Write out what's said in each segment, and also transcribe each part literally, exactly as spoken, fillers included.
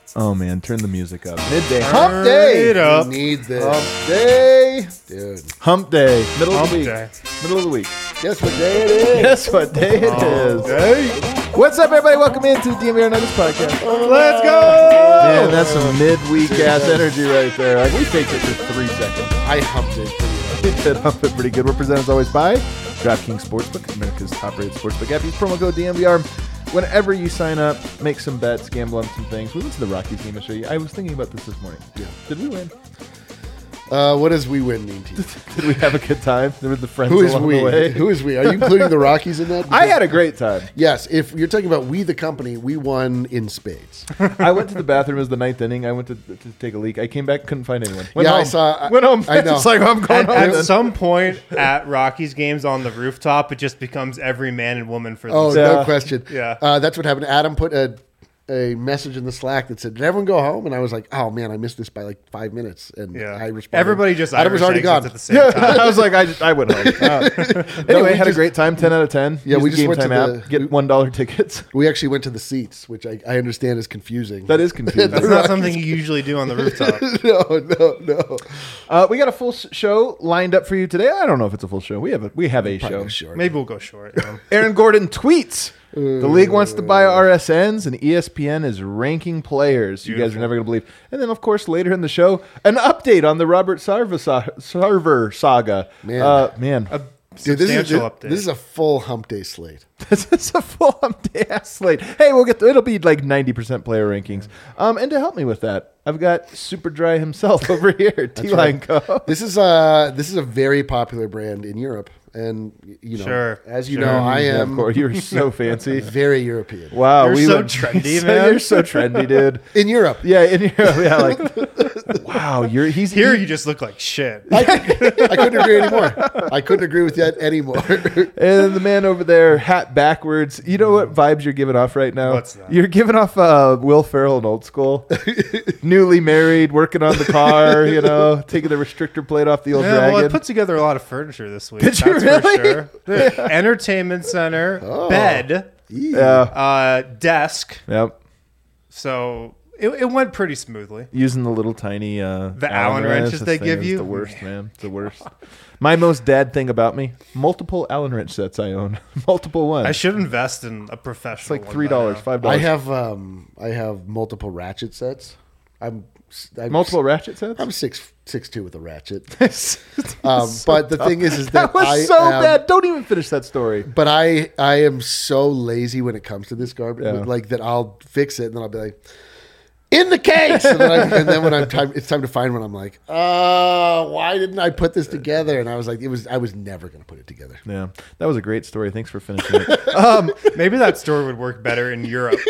Oh man, turn the music up. Midday. Turn Hump day. it up. We need this. Hump day. Dude. Hump day. Middle Hump of the week. day. Middle of the week. Guess what day it is? Guess what day it is? Hey, What's up, everybody? Welcome into the D M V R Nuggets podcast. let's go! Man, that's some midweek ass energy right there. Like we faked it for three seconds. I humped it pretty well. We did hump it pretty good. We're presented as always by DraftKings Sportsbook, America's top-rated sportsbook app. Use promo code D M V R. Whenever you sign up, make some bets, gamble on some things. We went to the Rockies game yesterday. I was thinking about this this morning. Yeah. Did we win? Uh, what does we win mean to you? Did we have a good time? There were the friends Who is along we? the way. Who is we? Are you including the Rockies in that? I had a great time. Yes, if you're talking about we the company, we won in spades. I went to the bathroom. It was the ninth inning. I went to, to take a leak. I came back, couldn't find anyone. Went Yeah, home. I saw- I- Went home. I know. It's like, I'm going At, home. at then. some point at Rockies games on the rooftop, it just becomes every man and woman for Oh, themselves. no Yeah. question. Yeah. Uh, that's what happened. Adam put a a message in the Slack that said, "Did everyone go home?" And I was like, "Oh man, I missed this by like five minutes." And Yeah. I responded. Everybody just Adam was Irish already exits gone. at the same time. I was like, I, just, I went home. Uh, anyway, we had a just- great time. ten out of ten. Yeah, Use we the just Game went to Time the- app. Get we- one dollar tickets. We actually went to the seats, which I, I understand is confusing. That is confusing. That's not something you usually do on the rooftop. no, no, no. Uh, we got a full s- show lined up for you today. I don't know if it's a full show. We have a we have a show. Short. Maybe we'll go short. you know. Aaron Gordon tweets. The league wants to buy R S Ns, and E S P N is ranking players. You guys are Beautiful. never going to believe. And then, of course, later in the show, an update on the Robert Sarver, sa- Sarver saga. Man. uh, man, A Dude, this is, substantial this, update. this is a full hump day slate. this is a full hump day ass slate. Hey, we'll get. To, it'll be like ninety percent player rankings. Um, and to help me with that, I've got Super Dry himself over here, T Line Co. This is a this is a very popular brand in Europe, and y- you know, Sure, as you sure. know, I Yeah, am of course, you're so fancy. very European. Wow, You're we so went- trendy, so man. You're so trendy, dude. In Europe, Yeah, in Europe, yeah, like wow, you're he's Here he- you just look like shit. I, I couldn't agree anymore. I couldn't agree with that anymore. and the man over there, hat backwards. You know what vibes you're giving off right now? What's that? You're giving off uh, Will Ferrell in Old School. Newly married, working on the car, you know, taking the restrictor plate off the old Yeah, dragon. well, I put together a lot of furniture this week. Did you that's really? for sure. The entertainment center, Oh. bed, yeah, uh, desk. yep. So it, it went pretty smoothly. Using the little tiny uh, The Allen wrenches this they thing give is you? The worst, man. It's the worst. My most dad thing about me: multiple Allen wrench sets I own, multiple ones. I should invest in a professional. It's like one three by dollars, now. five I dollars. have um, I have multiple ratchet sets. I'm, I'm Multiple ratchet sets. I'm six six two with a ratchet. It's Um, so but the tough. thing is, is that that, was I so am, bad. Don't even finish that story. But I I am so lazy when it comes to this garbage. Yeah. Like that, I'll fix it and then I'll be like, in the case. And then, I, and then when I'm time, it's time to find one. I'm like, uh, why didn't I put this together? And I was like, it was I was never going to put it together. Yeah, that was a great story. Thanks for finishing it. Um, Maybe that store would work better in Europe.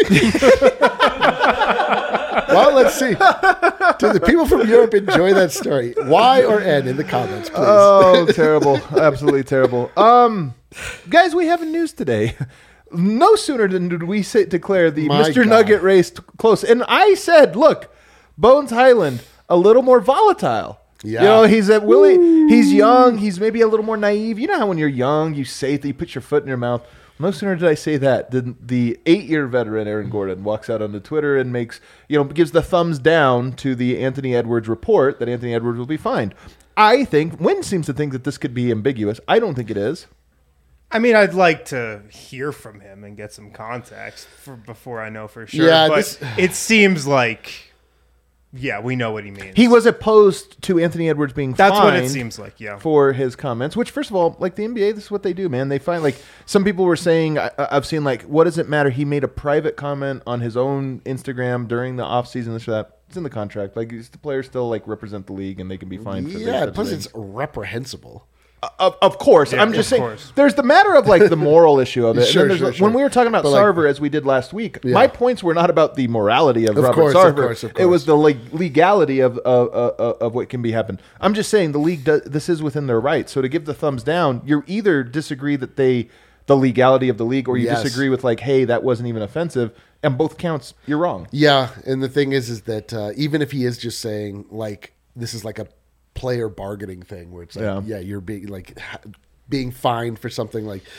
Well, let's see. Do the people from Europe enjoy that story? Y or N in the comments, please. oh, terrible! Absolutely terrible. Um, guys, we have news today. No sooner than did we say, declare the My Mister God. Nugget race t- close, and I said, "Look, Bones Highland, a little more volatile." Yeah. You know, he's at Willie. He's young. He's maybe a little more naive. You know how when you're young, you say that you put your foot in your mouth. No sooner did I say that than the eight-year veteran Aaron Gordon walks out onto Twitter and makes, you know, gives the thumbs down to the Anthony Edwards report that Anthony Edwards will be fined. I think Wynn seems to think that this could be ambiguous. I don't think it is. I mean, I'd like to hear from him and get some context for, before I know for sure. Yeah, but this- it seems like, yeah, we know what he means. He was opposed to Anthony Edwards being That's fined what it seems like, yeah. for his comments, which, first of all, like the N B A, this is what they do, man. They find, like, some people were saying, I, I've seen, like, what does it matter? He made a private comment on his own Instagram during the offseason, this or that. It's in the contract. Like, the players still, like, represent the league, and they can be fined for Yeah, this. plus it's reprehensible. Of, of course. Yeah, I'm just of saying, course. there's the matter of, like, the moral issue of it. Sure, and then sure, there's, sure. When we were talking about But, like- Sarver, as we did last week, Yeah. my points were not about the morality of, Of Robert course, of Sarver. course, of It was course. the leg- legality of, of, of, of what can be happen. I'm just saying the league does, this is within their rights. So to give the thumbs down, you either disagree that they the legality of the league, or you Yes. disagree with, like, hey, that wasn't even offensive. And both counts, you're wrong. Yeah, and the thing is, is that uh, even if he is just saying like this is like a player bargaining thing, where it's like, Yeah. yeah, you're being like ha- being fined for something like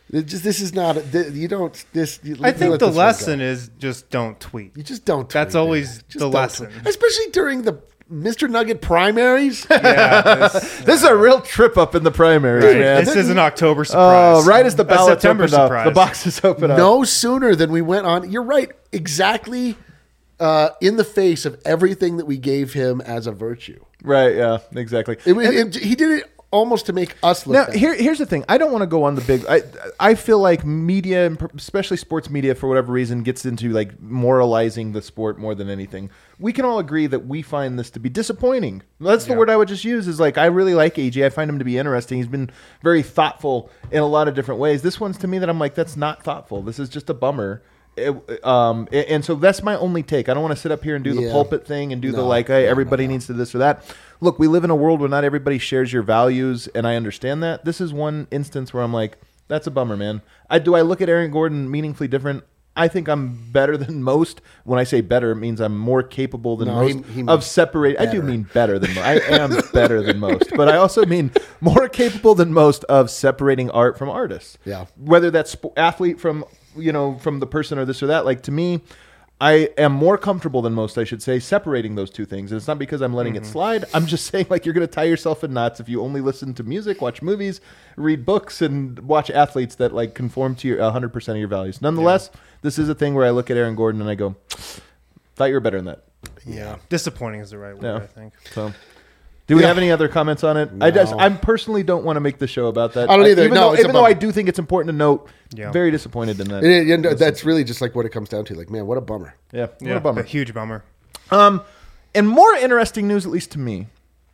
It just this is not. th- You don't. This. You, I you think let the this one go. lesson is just don't tweet. You just don't. That's tweet, always man. Just the don't lesson. tweet. Especially during the Mister Nugget primaries. Yeah, this, This is a real trip up in the primaries, right. man. This is an October surprise. Oh, right as the A ballots September open up, surprise. the boxes open up. No sooner than we went on. You're right. Exactly. Uh, in the face of everything that we gave him as a virtue. Right, yeah, exactly. It, was- it, he did it almost to make us look Now, bad. here, here's the thing. I don't want to go on the big. I, I feel like media, and especially sports media, for whatever reason, gets into like moralizing the sport more than anything. We can all agree that we find this to be disappointing. That's the Yeah. word I would just use. Is like I really like A J. I find him to be interesting. He's been very thoughtful in a lot of different ways. This one's to me that I'm like, that's not thoughtful. This is just a bummer. It, um, and so that's my only take. I don't want to sit up here and do the Yeah. pulpit thing and do the No, like, hey, no, everybody no, no. needs to this or that. Look, we live in a world where not everybody shares your values, and I understand that. This is one instance where I'm like, that's a bummer, man. I do I look at Aaron Gordon meaningfully different? I think I'm better than most. When I say better, it means I'm more capable than No, most he- he of means separating. I do better. mean better than most. I am better than most, but I also mean more capable than most of separating art from artists. Yeah. Whether that's sp- athlete from you know from the person or this or that. Like to me, I am more comfortable than most, I should say, separating those two things. And it's not because I'm letting Mm-hmm. it slide. I'm just saying, like, you're going to tie yourself in knots if you only listen to music, watch movies, read books, and watch athletes that, like, conform to your one hundred percent of your values. Nonetheless, this is a thing where I look at Aaron Gordon and I go, thought you were better than that. Yeah. Disappointing is the right word, Yeah. I think. So, do we Yeah. have any other comments on it? I just, No. I personally don't want to make the show about that. I don't either. Even, No, though, it's a even though bummer. I do think it's important to note, Yeah. very disappointed in that. And it- and that's really just like what it comes down to. Like, man, what a bummer. Yeah, what Yeah, a bummer. a huge bummer. Um, and more interesting news, at least to me,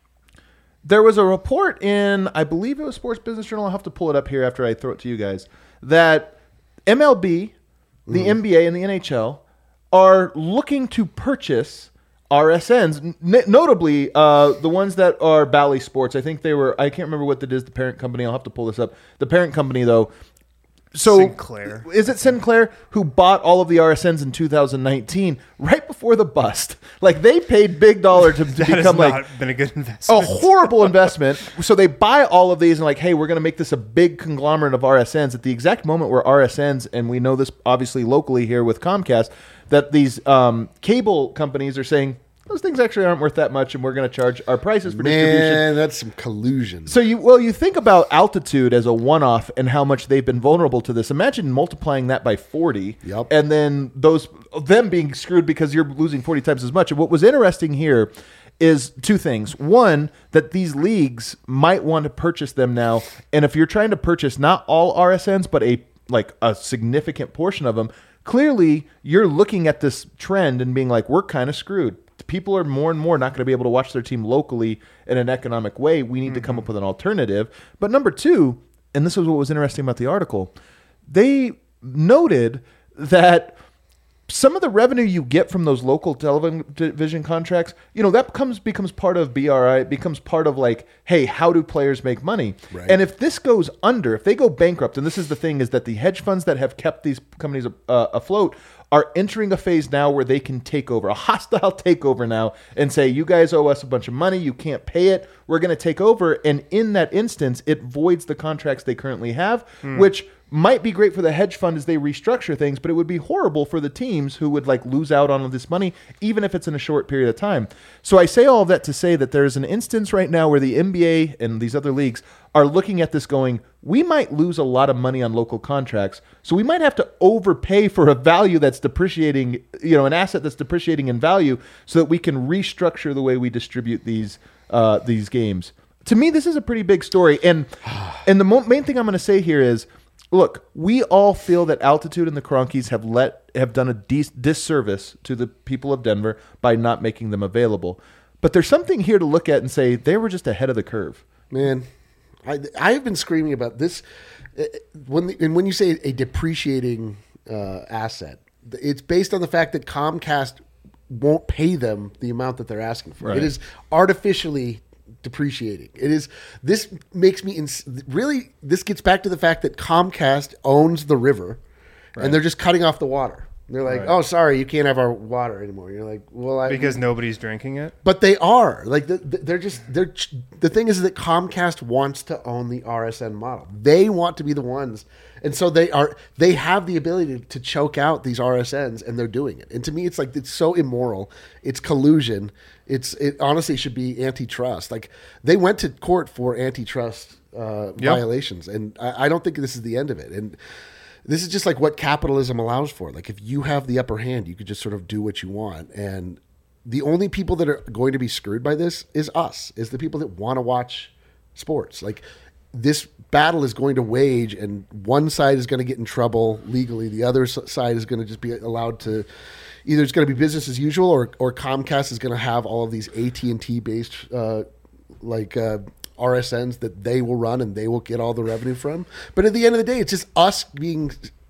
there was a report in, I believe it was Sports Business Journal. I'll have to pull it up here after I throw it to you guys, that M L B, the N B A, and the N H L are looking to purchase R S Ns, n- notably uh, the ones that are Bally Sports. I think they were, I can't remember what that is, the parent company. I'll have to pull this up. The parent company, though. So Sinclair. is it Sinclair who bought all of the R S Ns in two thousand nineteen, right before the bust? Like they paid big dollar to, to That has become not like been a good a investment. horrible investment. So they buy all of these and like, hey, we're going to make this a big conglomerate of R S Ns at the exact moment where R S Ns, and we know this obviously locally here with Comcast, that these um, cable companies are saying those things actually aren't worth that much, and we're going to charge our prices for distribution. Man, that's some collusion. So you well, you think about Altitude as a one-off and how much they've been vulnerable to this. Imagine multiplying that by forty, Yep. and then those them being screwed because you're losing forty times as much. And what was interesting here is two things. One, that these leagues might want to purchase them now, and if you're trying to purchase not all R S Ns but a like a significant portion of them, clearly you're looking at this trend and being like, we're kind of screwed. People are more and more not going to be able to watch their team locally in an economic way. We need mm-hmm. to come up with an alternative. But number two, and this was what was interesting about the article, they noted that some of the revenue you get from those local television contracts, you know, that becomes becomes part of B R I. It becomes part of like, hey, how do players make money? Right. And if this goes under, if they go bankrupt, and this is the thing, is that the hedge funds that have kept these companies uh, afloat are entering a phase now where they can take over, a hostile takeover now, and say, you guys owe us a bunch of money, you can't pay it, we're going to take over. And in that instance, it voids the contracts they currently have, mm. which might be great for the hedge fund as they restructure things, but it would be horrible for the teams who would like lose out on this money, even if it's in a short period of time. So I say all of that to say that there's an instance right now where the N B A and these other leagues are looking at this going, we might lose a lot of money on local contracts, so we might have to overpay for a value that's depreciating, you know, an asset that's depreciating in value, so that we can restructure the way we distribute these uh, these games. To me, this is a pretty big story, and and the mo- main thing I'm going to say here is, look, we all feel that Altitude and the Kroenkes have let have done a dis- disservice to the people of Denver by not making them available. But there's something here to look at and say they were just ahead of the curve. Man, I I have been screaming about this when the, and when you say a depreciating uh, asset, it's based on the fact that Comcast won't pay them the amount that they're asking for. Right. It is artificially depreciating. It is. This makes me ins- really. This gets back to the fact that Comcast owns the river, Right. and they're just cutting off the water. They're like, Right. "Oh, sorry, you can't have our water anymore." You're like, "Well, I Because nobody's drinking it. But they are like the, the, they're just they're ch- the thing is that Comcast wants to own the R S N model. They want to be the ones, and so they are they have the ability to, to choke out these R S Ns, and they're doing it. And to me, it's like it's so immoral. It's collusion. It's it honestly should be antitrust. Like they went to court for antitrust uh, Yep. violations, and I, I don't think this is the end of it. And this is just like what capitalism allows for. Like if you have the upper hand, you could just sort of do what you want. And the only people that are going to be screwed by this is us, is the people that want to watch sports. Like this battle is going to wage, and one side is going to get in trouble legally. The other s- side is going to just be allowed to, either it's going to be business as usual, or, or Comcast is going to have all of these A T and T based uh, like uh, R S Ns that they will run and they will get all the revenue from. But at the end of the day, it's just us being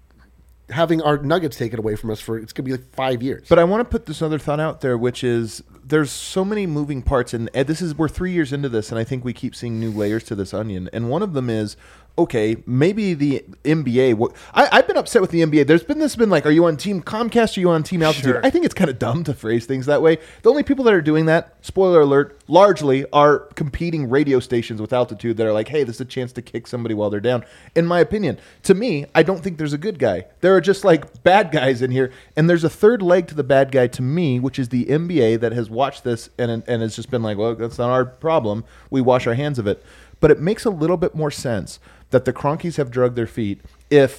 having our nuggets taken away from us for it's going to be like five years. But I want to put this other thought out there, which is there's so many moving parts, and Ed, this is we're three years into this, and I think we keep seeing new layers to this onion. And one of them is, okay, maybe the N B A. What, I, I've been upset with the N B A. There's been this been like, are you on Team Comcast? Or are you on Team Altitude? Sure. I think it's kind of dumb to phrase things that way. The only people that are doing that, spoiler alert, largely are competing radio stations with Altitude that are like, hey, this is a chance to kick somebody while they're down. In my opinion, to me, I don't think there's a good guy. There are just like bad guys in here, and there's a third leg to the bad guy to me, which is the N B A that has watched this and and has just been like, well, that's not our problem. We wash our hands of it. But it makes a little bit more sense that the Cronkies have drugged their feet if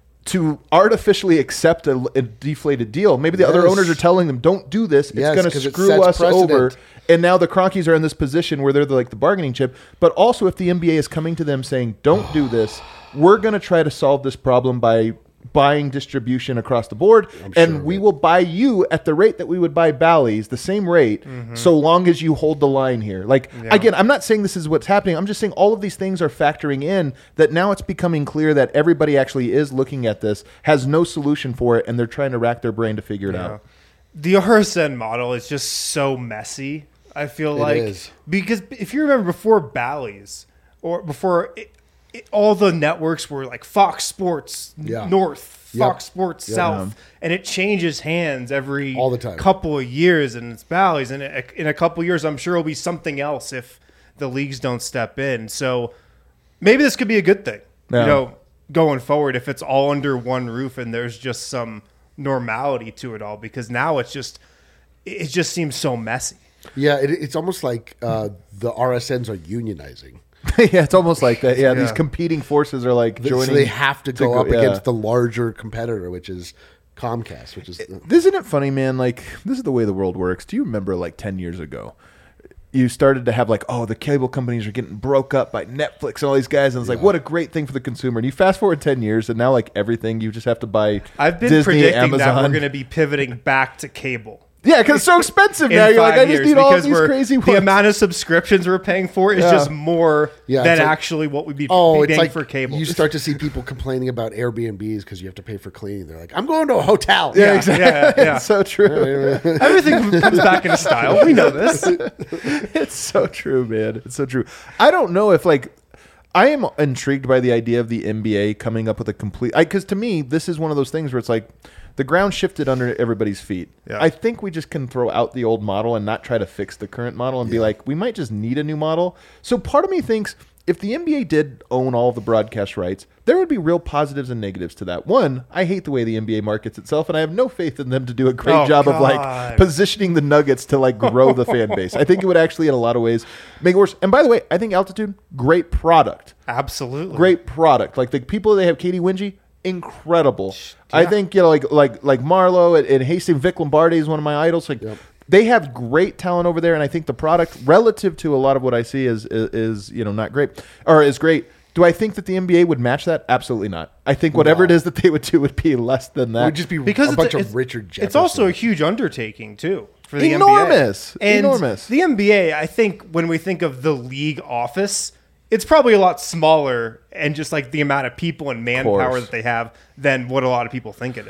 to artificially accept a, a deflated deal. Maybe the other Yes. owners are telling them, don't do this. It's Yes, going 'cause to it screw sets us precedent. over. And now the Cronkies are in this position where they're the, like the bargaining chip. But also if the N B A is coming to them saying, don't do this, we're going to try to solve this problem by buying distribution across the board, I'm and sure we of it. will buy you at the rate that we would buy Bally's, the same rate, so long as you hold the line here. Like, Yeah. again, I'm not saying this is what's happening. I'm just saying all of these things are factoring in that now it's becoming clear that everybody actually is looking at this, has no solution for it, and they're trying to rack their brain to figure it Yeah. out. The R S N model is just so messy. I feel It like is. because if you remember before Bally's or before it, it, all the networks were like Fox Sports Yeah. North, Yep. Fox Sports Yep. South, and it changes hands every All the time. couple of years, and it's Bally's, and in a, in a couple of years, I'm sure it'll be something else if the leagues don't step in. So maybe this could be a good thing, Yeah. you know, going forward if it's all under one roof and there's just some normality to it all, because now it's just it just seems so messy. Yeah, it, it's almost like uh, the R S Ns are unionizing. Yeah, it's almost like that. Yeah, these Yeah. competing forces are like So joining. they have to go up yeah. against the larger competitor, which is Comcast, which is Isn't it funny, man? Like, this is the way the world works. Do you remember, like, ten years ago, you started to have, like, oh, the cable companies are getting broke up by Netflix and all these guys, and it's like, what a great thing for the consumer. And you fast forward ten years, and now, like, everything, you just have to buy I've been Disney, predicting Amazon. that we're going to be pivoting back to cable. Yeah, because it's so expensive In now. You're like, five I just years, need all because these we're- crazy ones. the amount of subscriptions we're paying for is Yeah. just more Yeah, than it's like- actually what we'd be, oh, be it's paying like for cable. you start to see people complaining about Airbnbs because you have to pay for cleaning. They're like, I'm going to a hotel. yeah, yeah, exactly. yeah, yeah. It's so true. Everything comes back into style. We know this. It's so true, man. It's so true. I don't know if like I am intrigued by the idea of the N B A coming up with a complete. Because to me, this is one of those things where it's like the ground shifted under everybody's feet. Yeah. I think we just can throw out the old model and not try to fix the current model and be like, we might just need a new model. So part of me thinks if the N B A did own all of the broadcast rights, there would be real positives and negatives to that. One, I hate the way the N B A markets itself, and I have no faith in them to do a great Oh, job of like God. positioning the Nuggets to like grow the fan base. I think it would actually, in a lot of ways, make it worse. And by the way, I think Altitude, great product, Absolutely. great product. Like the people they have, Katie Wingy, incredible. I Yeah. think you know, like like like Marlowe and, and Hastings Vic Lombardi is one of my idols. Like. Yep. They have great talent over there, and I think the product, relative to a lot of what I see, is, is is you know not great or is great. Do I think that the N B A would match that? Absolutely not. I think whatever it No. is that they would do would be less than It that. would just be Because a it's bunch it's- of Richard Jefferson. It's also a huge undertaking too for the Enormous. N B A. And Enormous. The N B A, I think, when we think of the league office, it's probably a lot smaller and just like the amount of people and manpower course. that they have than what a lot of people think it is.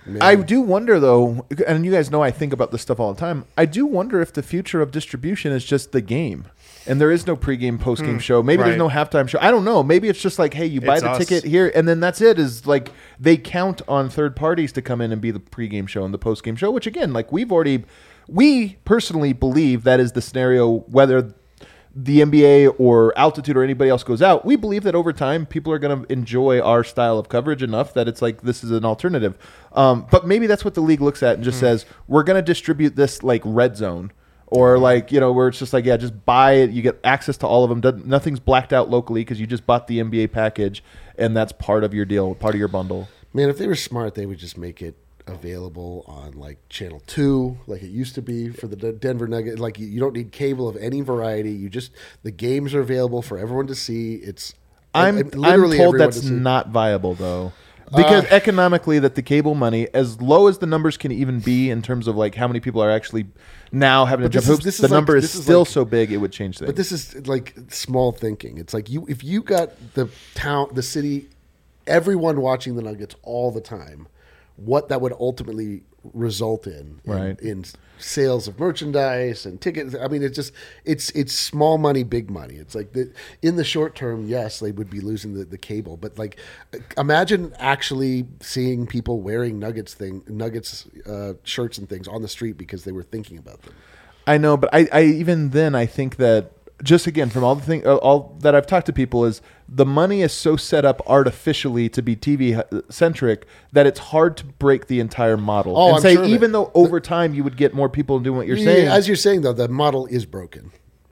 I do wonder, though, and you guys know I think about this stuff all the time. I do wonder if the future of distribution is just the game, and there is no pregame, postgame mm, show. Maybe right. there's no halftime show. I don't know. Maybe it's just like, hey, you buy it's the us. ticket here, and then that's it. Is like they count on third parties to come in and be the pregame show and the postgame show. Which again, like we've already, we personally believe that is the scenario. Whether the N B A or Altitude or anybody else goes out, we believe that over time people are going to enjoy our style of coverage enough that it's like this is an alternative. Um, but maybe that's what the league looks at and just mm. says, we're going to distribute this like Red Zone or like, you know, where it's just like, yeah, just buy it. You get access to all of them. Doesn't, nothing's blacked out locally because you just bought the N B A package and that's part of your deal, part of your bundle. Man, if they were smart, they would just make it available on like channel two like it used to be for the Denver Nuggets. Like you don't need cable of any variety. You just the games are available for everyone to see. It's I'm and, and I'm told that's to not viable though, because uh, economically that the cable money, as low as the numbers can even be in terms of like how many people are actually now having to jump hoops, the like, number is still like, so big it would change things. But this is like small thinking. It's like you if you got the town, the city, everyone watching the Nuggets all the time, what that would ultimately result in, in, right. in sales of merchandise and tickets. I mean, it's just it's it's small money, big money. It's like the, in the short term, yes, they would be losing the, the cable, but like imagine actually seeing people wearing Nuggets thing, Nuggets uh, shirts and things on the street because they were thinking about them. I know, but I, I even then I think that. Just again, from all the thing, all that I've talked to people is the money is so set up artificially to be T V centric that it's hard to break the entire model. Oh, and I'm say sure even though over time you would get more people doing what you're yeah, saying. As you're saying though, the model is broken.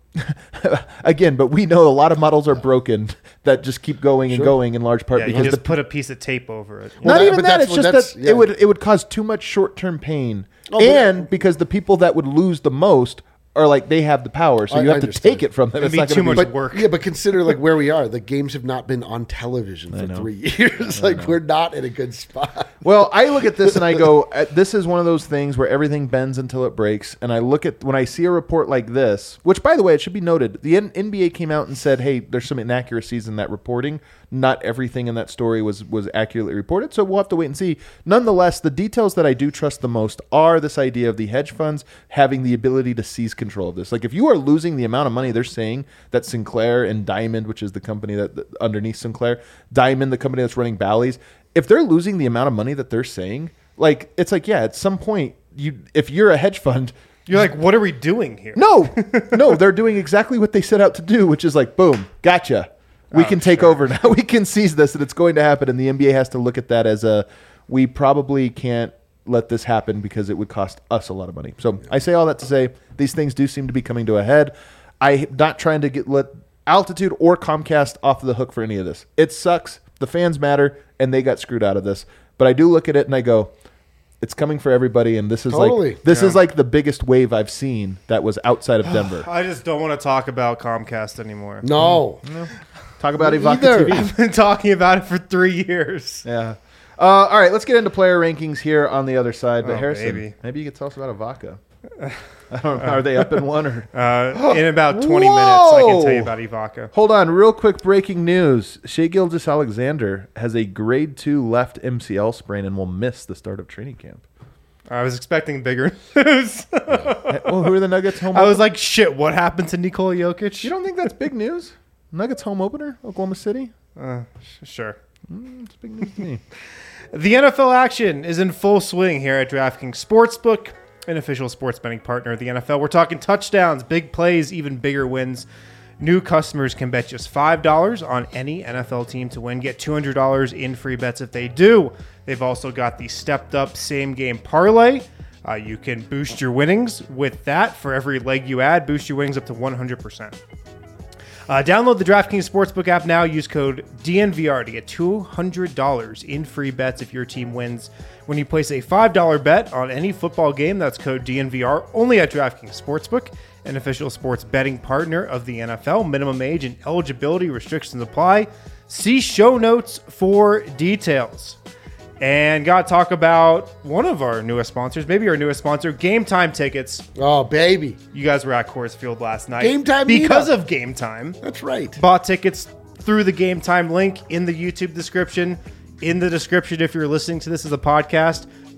Again, but we know a lot of models are broken that just keep going and sure. going in large part yeah, because you just the, put a piece of tape over it. Not well, even that. It's just that yeah. it would it would cause too much short term pain, oh, and because the people that would lose the most. Or like they have the power, so you I, have I to take it from them. It'd it's be too much be, work. Yeah, but consider like where we are. The games have not been on television for three years. Like we're not in a good spot. Well, I look at this and I go, this is one of those things where everything bends until it breaks. And I look at when I see a report like this, which by the way, it should be noted, the N B A came out and said, hey, there's some inaccuracies in that reporting. Not everything in that story was was accurately reported, so we'll have to wait and see. Nonetheless, the details that I do trust the most are this idea of the hedge funds having the ability to seize control of this. Like if you are losing the amount of money they're saying that Sinclair and Diamond, which is the company that, that underneath Sinclair, Diamond, the company that's running Bally's, if they're losing the amount of money that they're saying, like it's like, yeah, at some point, you if you're a hedge fund, you're like, what are we doing here? No, no, they're doing exactly what they set out to do, which is like, boom, gotcha. We oh, can take sure. over now. We can seize this, and it's going to happen. And the N B A has to look at that as a, we probably can't let this happen because it would cost us a lot of money. So I say all that to say these things do seem to be coming to a head. I'm not trying to get let Altitude or Comcast off the hook for any of this. It sucks. The fans matter, and they got screwed out of this. But I do look at it and I go, it's coming for everybody, and this is totally. like this yeah. is like the biggest wave I've seen that was outside of Denver. I just don't want to talk about Comcast anymore. No. no. Talk about Ivanka T V. I've been talking about it for three years. Yeah. Uh, all right, let's get into player rankings here on the other side. But oh, Harrison, baby. maybe you could tell us about Ivanka. I don't know. Are they up in one or? Uh, in about twenty Whoa! minutes, I can tell you about Ivanka. Hold on, real quick breaking news: Shai Gilgeous-Alexander has a grade two left M C L sprain and will miss the start of training camp. I was expecting bigger news. Well, who are the Nuggets home? I was like, shit, what happened to Nikola Jokic? You don't think that's big news? Nuggets home opener, Oklahoma City? Uh, sh- sure. Mm, it's big news to me. The N F L action is in full swing here at DraftKings Sportsbook, an official sports betting partner of the N F L. We're talking touchdowns, big plays, even bigger wins. New customers can bet just five dollars on any N F L team to win. Get two hundred dollars in free bets if they do. They've also got the stepped-up same-game parlay. Uh, you can boost your winnings with that. For every leg you add, boost your winnings up to one hundred percent. Uh, download the DraftKings Sportsbook app now. Use code D N V R to get two hundred dollars in free bets if your team wins. When you place a five dollar bet on any football game, that's code D N V R only at DraftKings Sportsbook, an official sports betting partner of the N F L. Minimum age and eligibility restrictions apply. See show notes for details. And got to talk about one of our newest sponsors, maybe our newest sponsor, Game Time Tickets. Oh, baby. You guys were at Coors Field last night. Game Time Because meetup. of Game Time. That's right. Bought tickets through the Game Time link in the YouTube description. In the description, if you're listening to this as a podcast,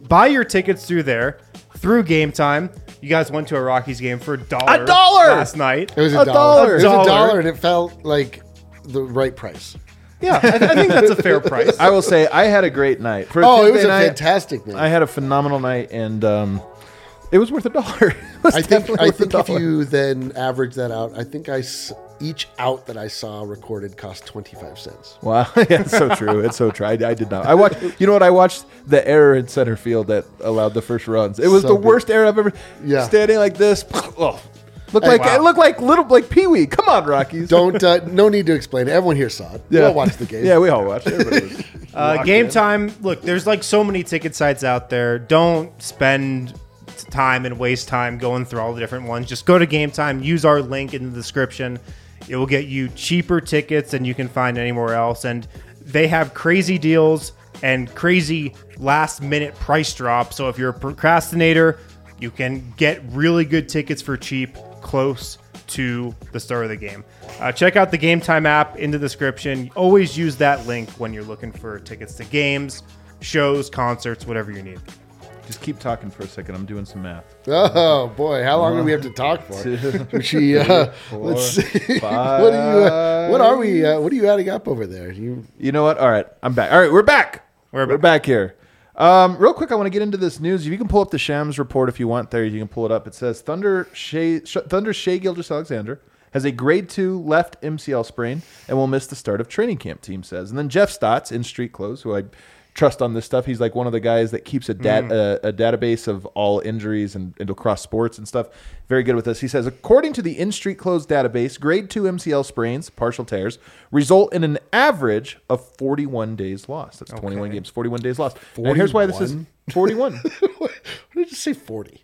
buy your tickets through there, through Game Time. You guys went to a Rockies game for a dollar. A dollar! Last night. It was a, A dollar. dollar. It was Dollar. a dollar, and it felt like the right price. Yeah, I, I think that's a fair price. I will say I had a great night. For a Oh, it Tuesday was a night, fantastic night. I had a phenomenal night, and um, it was worth a dollar. It was I think definitely I worth a think if dollar. you then average that out, I think I s- each out that I saw recorded cost twenty-five cents. Wow, yeah, it's so true. It's so true. I, I did not. I watched. You know what? I watched the error in center field that allowed the first runs. It was So the good. worst error I've ever. Yeah. Standing like this. Oh, looked Hey, like wow. it looked like little like Pee Wee. Come on, Rockies. Don't uh, no need to explain it. Everyone here saw it. We all watched the game. Yeah, we all watched. Everybody was Uh, locked game in. Time. Look, there's like so many ticket sites out there. Don't spend time and waste time going through all the different ones. Just go to Game Time. Use our link in the description. It will get you cheaper tickets than you can find anywhere else. And they have crazy deals and crazy last minute price drops. So if you're a procrastinator, you can get really good tickets for cheap close to the start of the game. Uh, check out the Game Time app in the description. Always use that link when you're looking for tickets to games, shows, concerts, whatever you need. Just keep talking for a second. I'm doing some math. Oh boy, how long do we have to talk for? Two, She, uh, four, let's see. five. what are you? Uh, what are we? Uh, what are you adding up over there? You You know what? All right, I'm back. All right, we're back. We're We're back here. Um, real quick, I want to get into this news. If you can pull up the Shams report if you want there, you can pull it up. It says Thunder Shea, Sh- Thunder Shea Gilgeous-Alexander has a grade two left M C L sprain and will miss the start of training camp, team says. And then Jeff Stotts in Street Clothes, who I trust on this stuff. He's like one of the guys that keeps a, dat- Mm. a, a database of all injuries and, and across sports and stuff. Very good with this. He says, according to the In Street Clothes database, grade two M C L sprains, partial tears, result in an average of forty-one days lost. That's twenty-one Okay. games, forty-one days lost. And here's why this is forty-one? forty-one. what did you say? Forty.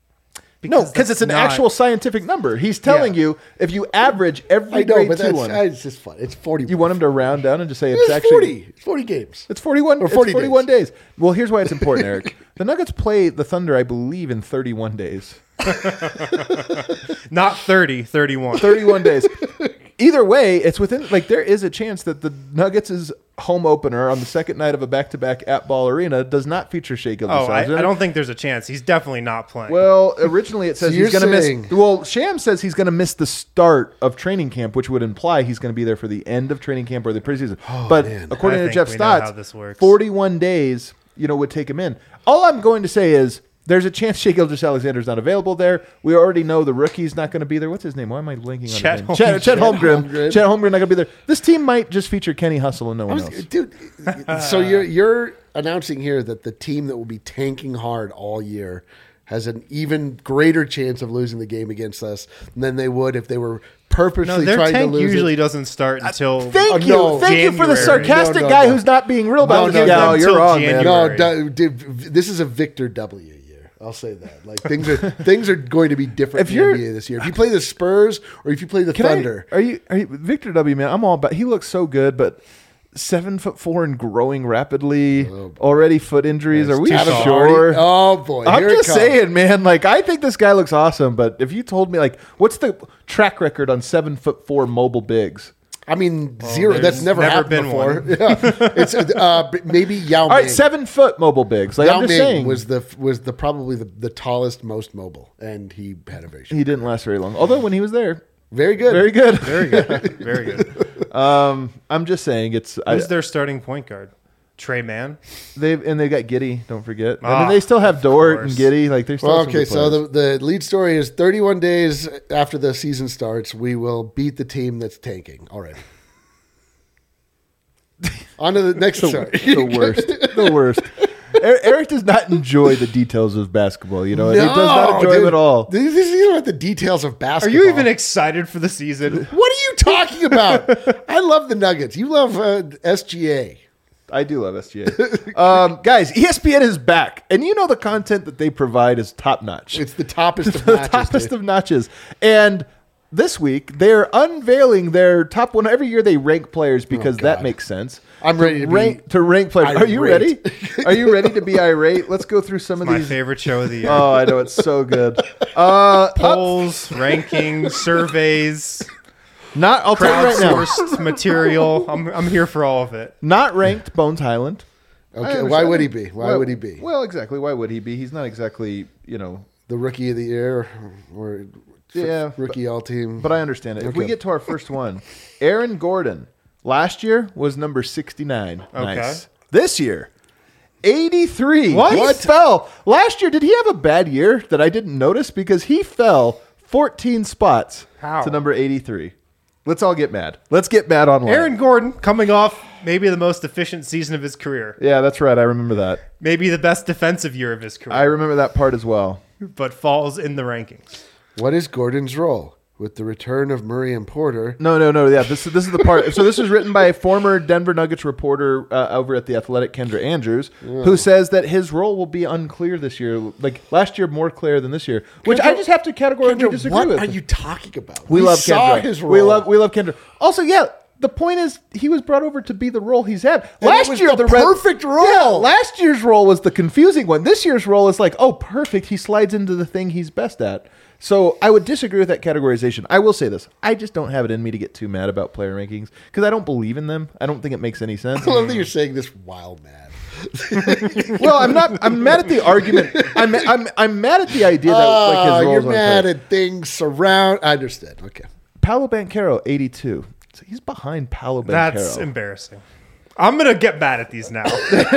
No, because that's it's an not- actual scientific number. He's telling Yeah. you if you average every I know, grade but two that's one, it's just fun. It's forty. you want him to round down and just say it's, It's actually forty. It's forty games. It's forty-one. Or It's forty forty-one days. Well, here's why it's important, Eric. The Nuggets play the Thunder, I believe, in thirty-one days. Not thirty, thirty-one. thirty-one days. Either way, it's within, like, there is a chance that the Nuggets' home opener on the second night of a back-to-back at Ball Arena does not feature Shea Oh, I, Gilgeous-Alexander. I don't think there's a chance. He's definitely not playing. Well, originally it says So he's you're going to saying- miss. Well, Sham says he's going to miss the start of training camp, which would imply he's going to be there for the end of training camp or the preseason. but man. according I to think Jeff we know how Stotts, this works. forty-one days, you know, would take him in. All I'm going to say is there's a chance Shea Gilgeous-Alexander's not available there. We already know the rookie's not going to be there. What's his name? Why am I linking on Chet his name? Chet, Chet Holmgren. Holmgren. Holmgren. Chet Holmgren not going to be there. This team might just feature Kenny Hustle and no I one was, else. dude. So you're you're announcing here that the team that will be tanking hard all year has an even greater chance of losing the game against us than they would if they were purposely no, their trying to tank lose usually it. doesn't start until. Thank Oh, you. no. Thank you for the January. sarcastic No, no, guy no. who's not being real about No, it. no, yeah, no. you're Until wrong, January. man. No, da- dude, this is a Victor W year. I'll say that. Like things are things are going to be different If in the you're- N B A this year. If you play the Spurs or if you play the Can I- Thunder, are you are you Victor W, man? I'm all about. He looks so good, but seven foot four and growing rapidly. Already foot injuries. Are we Adam sure? Hardy- Oh boy, I'm here it just comes. saying, man. Like, I think this guy looks awesome, but if you told me, like, what's the track record on seven foot four mobile bigs? I mean, zero. That's there's never, never happened been before. one. Yeah. It's uh, b- maybe Yao All right, Ming. seven foot mobile bigs. Like, Yao I'm just Ming saying, was the was the probably the, the tallest, most mobile, and he had a very short. he didn't last very long. Although when he was there, Very good. very good. Very good. Very good. Um, I'm just saying, it's I, Who's their starting point guard? Trey Mann? they've and they got Giddy. Don't forget. I Ah, mean, they still have Dort and course. Giddy. Like, they're still Well, some okay, good so players. the, the lead story is thirty-one days after the season starts, we will beat the team that's tanking already. On to the next story. the worst. The worst. Er- Eric does not enjoy the details of basketball. You know, he does not enjoy dude. them at all. This is you know what the details of Are basketball. you even excited for the season? What are you talking about? I love the Nuggets. You love uh, S G A. I do love S G A. um, guys, E S P N is back, and you know the content that they provide is top notch. It's the toppest of the notches. toppest dude. of notches. And this week they're unveiling their top one. Every year they rank players because that Oh, God. makes sense. I'm ready to be rank to rank players. Are you ready? irate. Are you ready to be irate? Let's go through some of My these. favorite show of the year. Oh, I know it's so good. Uh, up- Polls, rankings, surveys, not. I'll tell you right now. crowdsourced material. I'm, I'm here for all of it. Not ranked, Bones Highland. I Okay, understand. why would he be? Why Well- would he be? Well, exactly. Why would he be? He's not exactly, you know. The rookie of the year or Yeah, rookie all team. But I understand it. If we Okay. get to our first one, Aaron Gordon last year was number sixty-nine. Okay. Nice. This year, eighty-three. What? He fell. Last year, did he have a bad year that I didn't notice? Because he fell fourteen spots How? to number eighty-three. Let's all get mad. Let's get mad online. Aaron Gordon coming off maybe the most efficient season of his career, Yeah, that's right. I remember that. maybe the best defensive year of his career, I remember that part as well. but falls in the rankings. What is Gordon's role with the return of Murray and Porter? No, no, no. Yeah, this is this is the part. So this is written by a former Denver Nuggets reporter uh, over at the Athletic, Kendra Andrews, who says that his role will be unclear this year. Like last year, more clear than this year, which I Kendra- just have to categorically Kendra, disagree what with. are you talking about? we, love saw Kendra. his role. We love we love Kendra. Also, yeah. The point is, he was brought over to be the role he's had. And Last it was year, the Red- perfect role. Yeah, last year's role was the confusing one. This year's role is like, oh, perfect. He slides into the thing he's best at. So I would disagree with that categorization. I will say this: I just don't have it in me to get too mad about player rankings because I don't believe in them. I don't think it makes any sense. I love that you're saying this while mad. Well, I'm not. I'm mad at the argument. I'm I'm I'm mad at the idea that like Oh, his you're roles aren't mad clear. at things surround. I understand. Okay. Paolo Banchero, eighty-two. So he's behind Paolo Banchero. That's embarrassing. I'm gonna get mad at these now.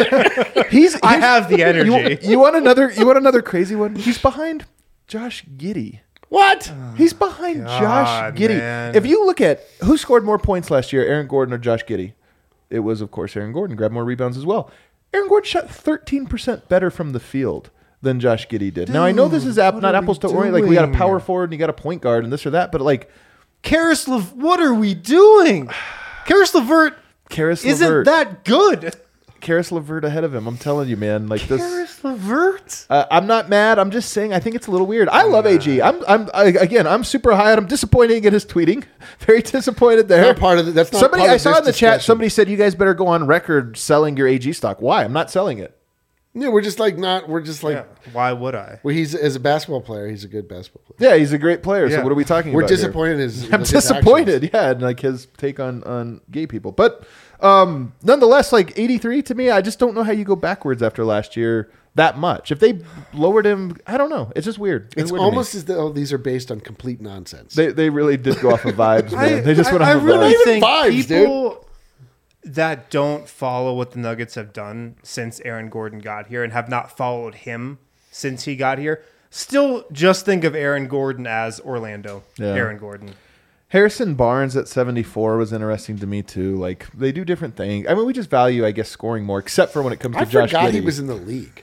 He's. I here's- have the You, energy. you want another? You want another crazy one? He's behind Josh Giddey. What? He's behind Josh God, Giddey. man. If you look at who scored more points last year, Aaron Gordon or Josh Giddey, it was of course Aaron Gordon. Grabbed more rebounds as well. Aaron Gordon shot thirteen percent better from the field than Josh Giddey did. now I know this is app, what not are we apples to orange. Like we got a doing? power forward and you got a point guard and this or that, but like Karis Lev- what are we doing? Karis LeVert Karis isn't LeVert, that good. Karis LeVert ahead of him. I'm telling you, man. Like this. Karis LeVert? Uh, I'm not mad. I'm just saying I think it's a little weird. I love A G. I'm, I'm I, again. I'm super high. I'm disappointed in his tweeting. Very disappointed there. Not part of the- that's not somebody part I of saw this in the chat. discussion. Somebody said you guys better go on record selling your A G stock. Why? I'm not selling it. Yeah, we're just like not. We're just like. Yeah. Why would I? Well, he's as a basketball player, he's a good basketball player. Yeah, he's a great player. Yeah. So what are we talking We're about? here? disappointed. in His, I'm with his disappointed. actions. Yeah, and like his take on on gay people, but um, nonetheless, like eighty-three to me, I just don't know how you go backwards after last year that much. If they lowered him, I don't know. It's just weird. It's weird to me. almost as though these are based on complete nonsense. They they really did go off of vibes, man. they just went I, off of I really vibes. Even think vibes, people that don't follow what the Nuggets have done since Aaron Gordon got here and have not followed him since he got here still just think of Aaron Gordon as Orlando. Yeah. Aaron Gordon. Harrison Barnes at seventy-four was interesting to me too. Like they do different things. I mean, we just value, I guess, scoring more, except for when it comes to I Josh forgot Giddey. he was in the league.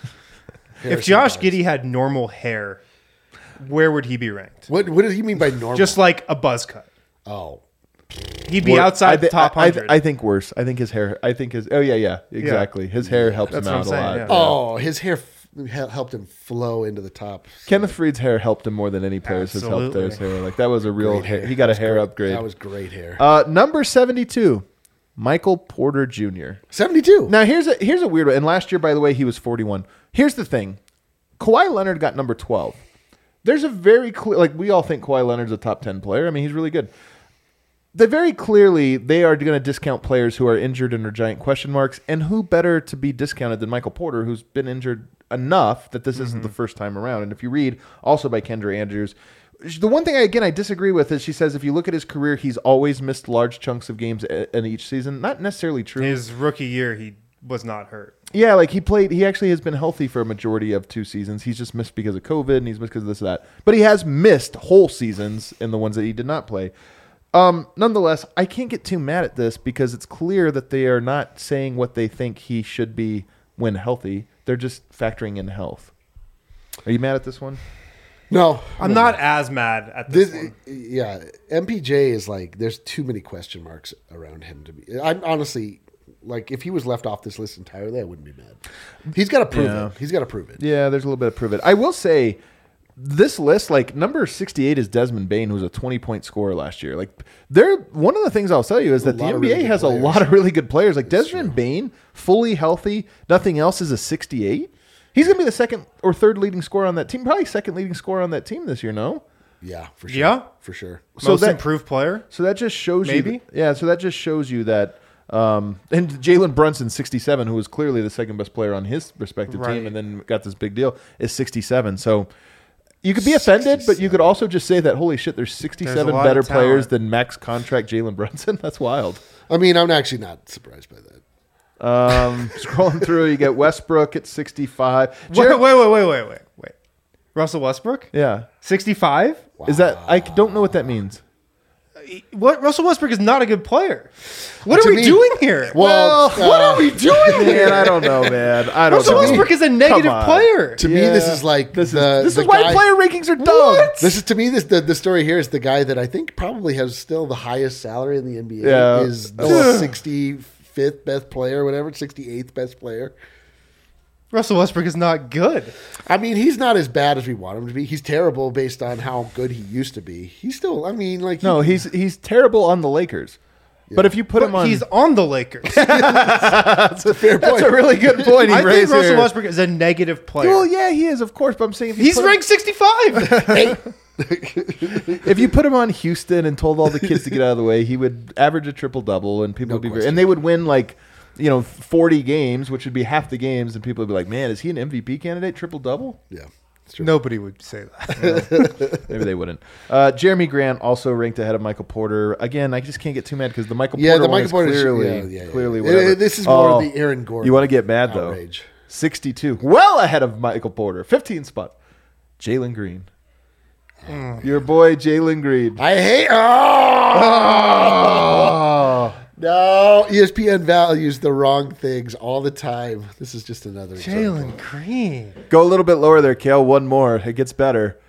If Harrison Josh Barnes. Giddey had normal hair, where would he be ranked? What what does he mean by normal? Just like a buzz cut. oh, He'd be Wor- outside I the thi- top I, I, hundred. I think worse. I think his hair. I think his. Oh yeah, yeah, exactly. His hair helps That's him what out I'm a saying, lot. yeah. oh, his hair f- hel- helped him flow into the top. Kenneth Freed's hair helped him more than any players has helped Absolutely. their hair. Like that was a real Great hair. hair. He got a That was hair great. upgrade. That was great hair. uh, number seventy-two, Michael Porter Junior seventy-two. Now here's a here's a weird one. And last year, by the way, he was forty-one. Here's the thing: Kawhi Leonard got number twelve. There's a very clear, like we all think Kawhi Leonard's a top ten player. I mean, he's really good. They very clearly they are going to discount players who are injured and are giant question marks. And who better to be discounted than Michael Porter, who's been injured enough that this isn't the first time around. And if you read also by Kendra Andrews, the one thing I, again I disagree with is she says if you look at his career, he's always missed large chunks of games i- in each season. Not necessarily true. His rookie year, he was not hurt. Yeah, like he played. He actually has been healthy for a majority of two seasons. He's just missed because of COVID, and he's missed because of this or that. But he has missed whole seasons in the ones that he did not play. Um, nonetheless, I can't get too mad at this because it's clear that they are not saying what they think he should be when healthy. They're just factoring in health. Are you mad at this one? No, I'm not as mad at this, This, one. yeah, M P J is like there's too many question marks around him to be. I'm honestly like if he was left off this list entirely, I wouldn't be mad. He's got to prove Yeah. it. He's got to prove it. Yeah, there's a little bit of prove it. I will say this list, like number sixty-eight is Desmond Bain, who's a twenty-point scorer last year. Like they're one of the things I'll tell you is that the lot of N B A really good has a players. lot of really good players. Like Desmond Bain, fully healthy, nothing else is a sixty-eight. He's going to be the second or third leading scorer on that team, probably second leading scorer on that team this year, no? Yeah, for sure. Yeah? for sure. So Most that- improved player. So that just shows Maybe? you, yeah. So that just shows you that Um, and Jalen Brunson, sixty-seven, who was clearly the second best player on his respective Right. team, and then got this big deal, is sixty-seven. So you could be offended, but you could also just say that holy shit, there's sixty-seven lot better of talent. players than max contract Jalen Brunson. That's wild. I mean, I'm actually not surprised by that. Um, scrolling through, you get Westbrook at sixty-five. Wait, Jared- wait, wait, wait, wait, wait, wait. Russell Westbrook, yeah. sixty-five. Is that I don't know what that means. What? Russell Westbrook is not a good player. What To are we me- doing here? Well, what uh, are we doing Man, here? I don't know, man. I don't Russell know. Westbrook is a negative Come on. player. To me, this is like this the, is this the is why guy- player rankings are dumb. This is to me this the, the story here is the guy that I think probably has still the highest salary in the N B A. Yeah. Is the sixty-fifth best player, whatever, sixty-eighth best player. Russell Westbrook is not good. I mean, he's not as bad as we want him to be. He's terrible based on how good he used to be. He's still, I mean, like No, he, he's he's terrible on the Lakers. But if you put him But on, he's on the Lakers. that's a fair that's point. a really good point. He I think raised Russell here. Westbrook is a negative player. Well, yeah, he is, of course. But I'm saying if you He's put him- ranked sixty-five. Hey, if you put him on Houston and told all the kids to get out of the way, he would average a triple double, and people No would be very, question. and they would win like, you know, forty games, which would be half the games, and people would be like, "Man, is he an M V P candidate? Triple double?" yeah, it's true. Nobody would say that. Maybe they wouldn't. Uh, Jeremy Grant also ranked ahead of Michael Porter. Again, I just can't get too mad because the Michael Yeah, Porter the one Michael is Porter clearly, yeah, yeah, yeah. clearly Uh, whatever. This is more Oh, the Aaron Gordon. You want to get mad though? outrage. sixty-two, well ahead of Michael Porter, fifteen spot. Jalen Green, your boy Jalen Green. I hate. Oh! No, E S P N values the wrong things all the time. This is just another example. Jalen Green. Go a little bit lower there, Kale. One more. It gets better.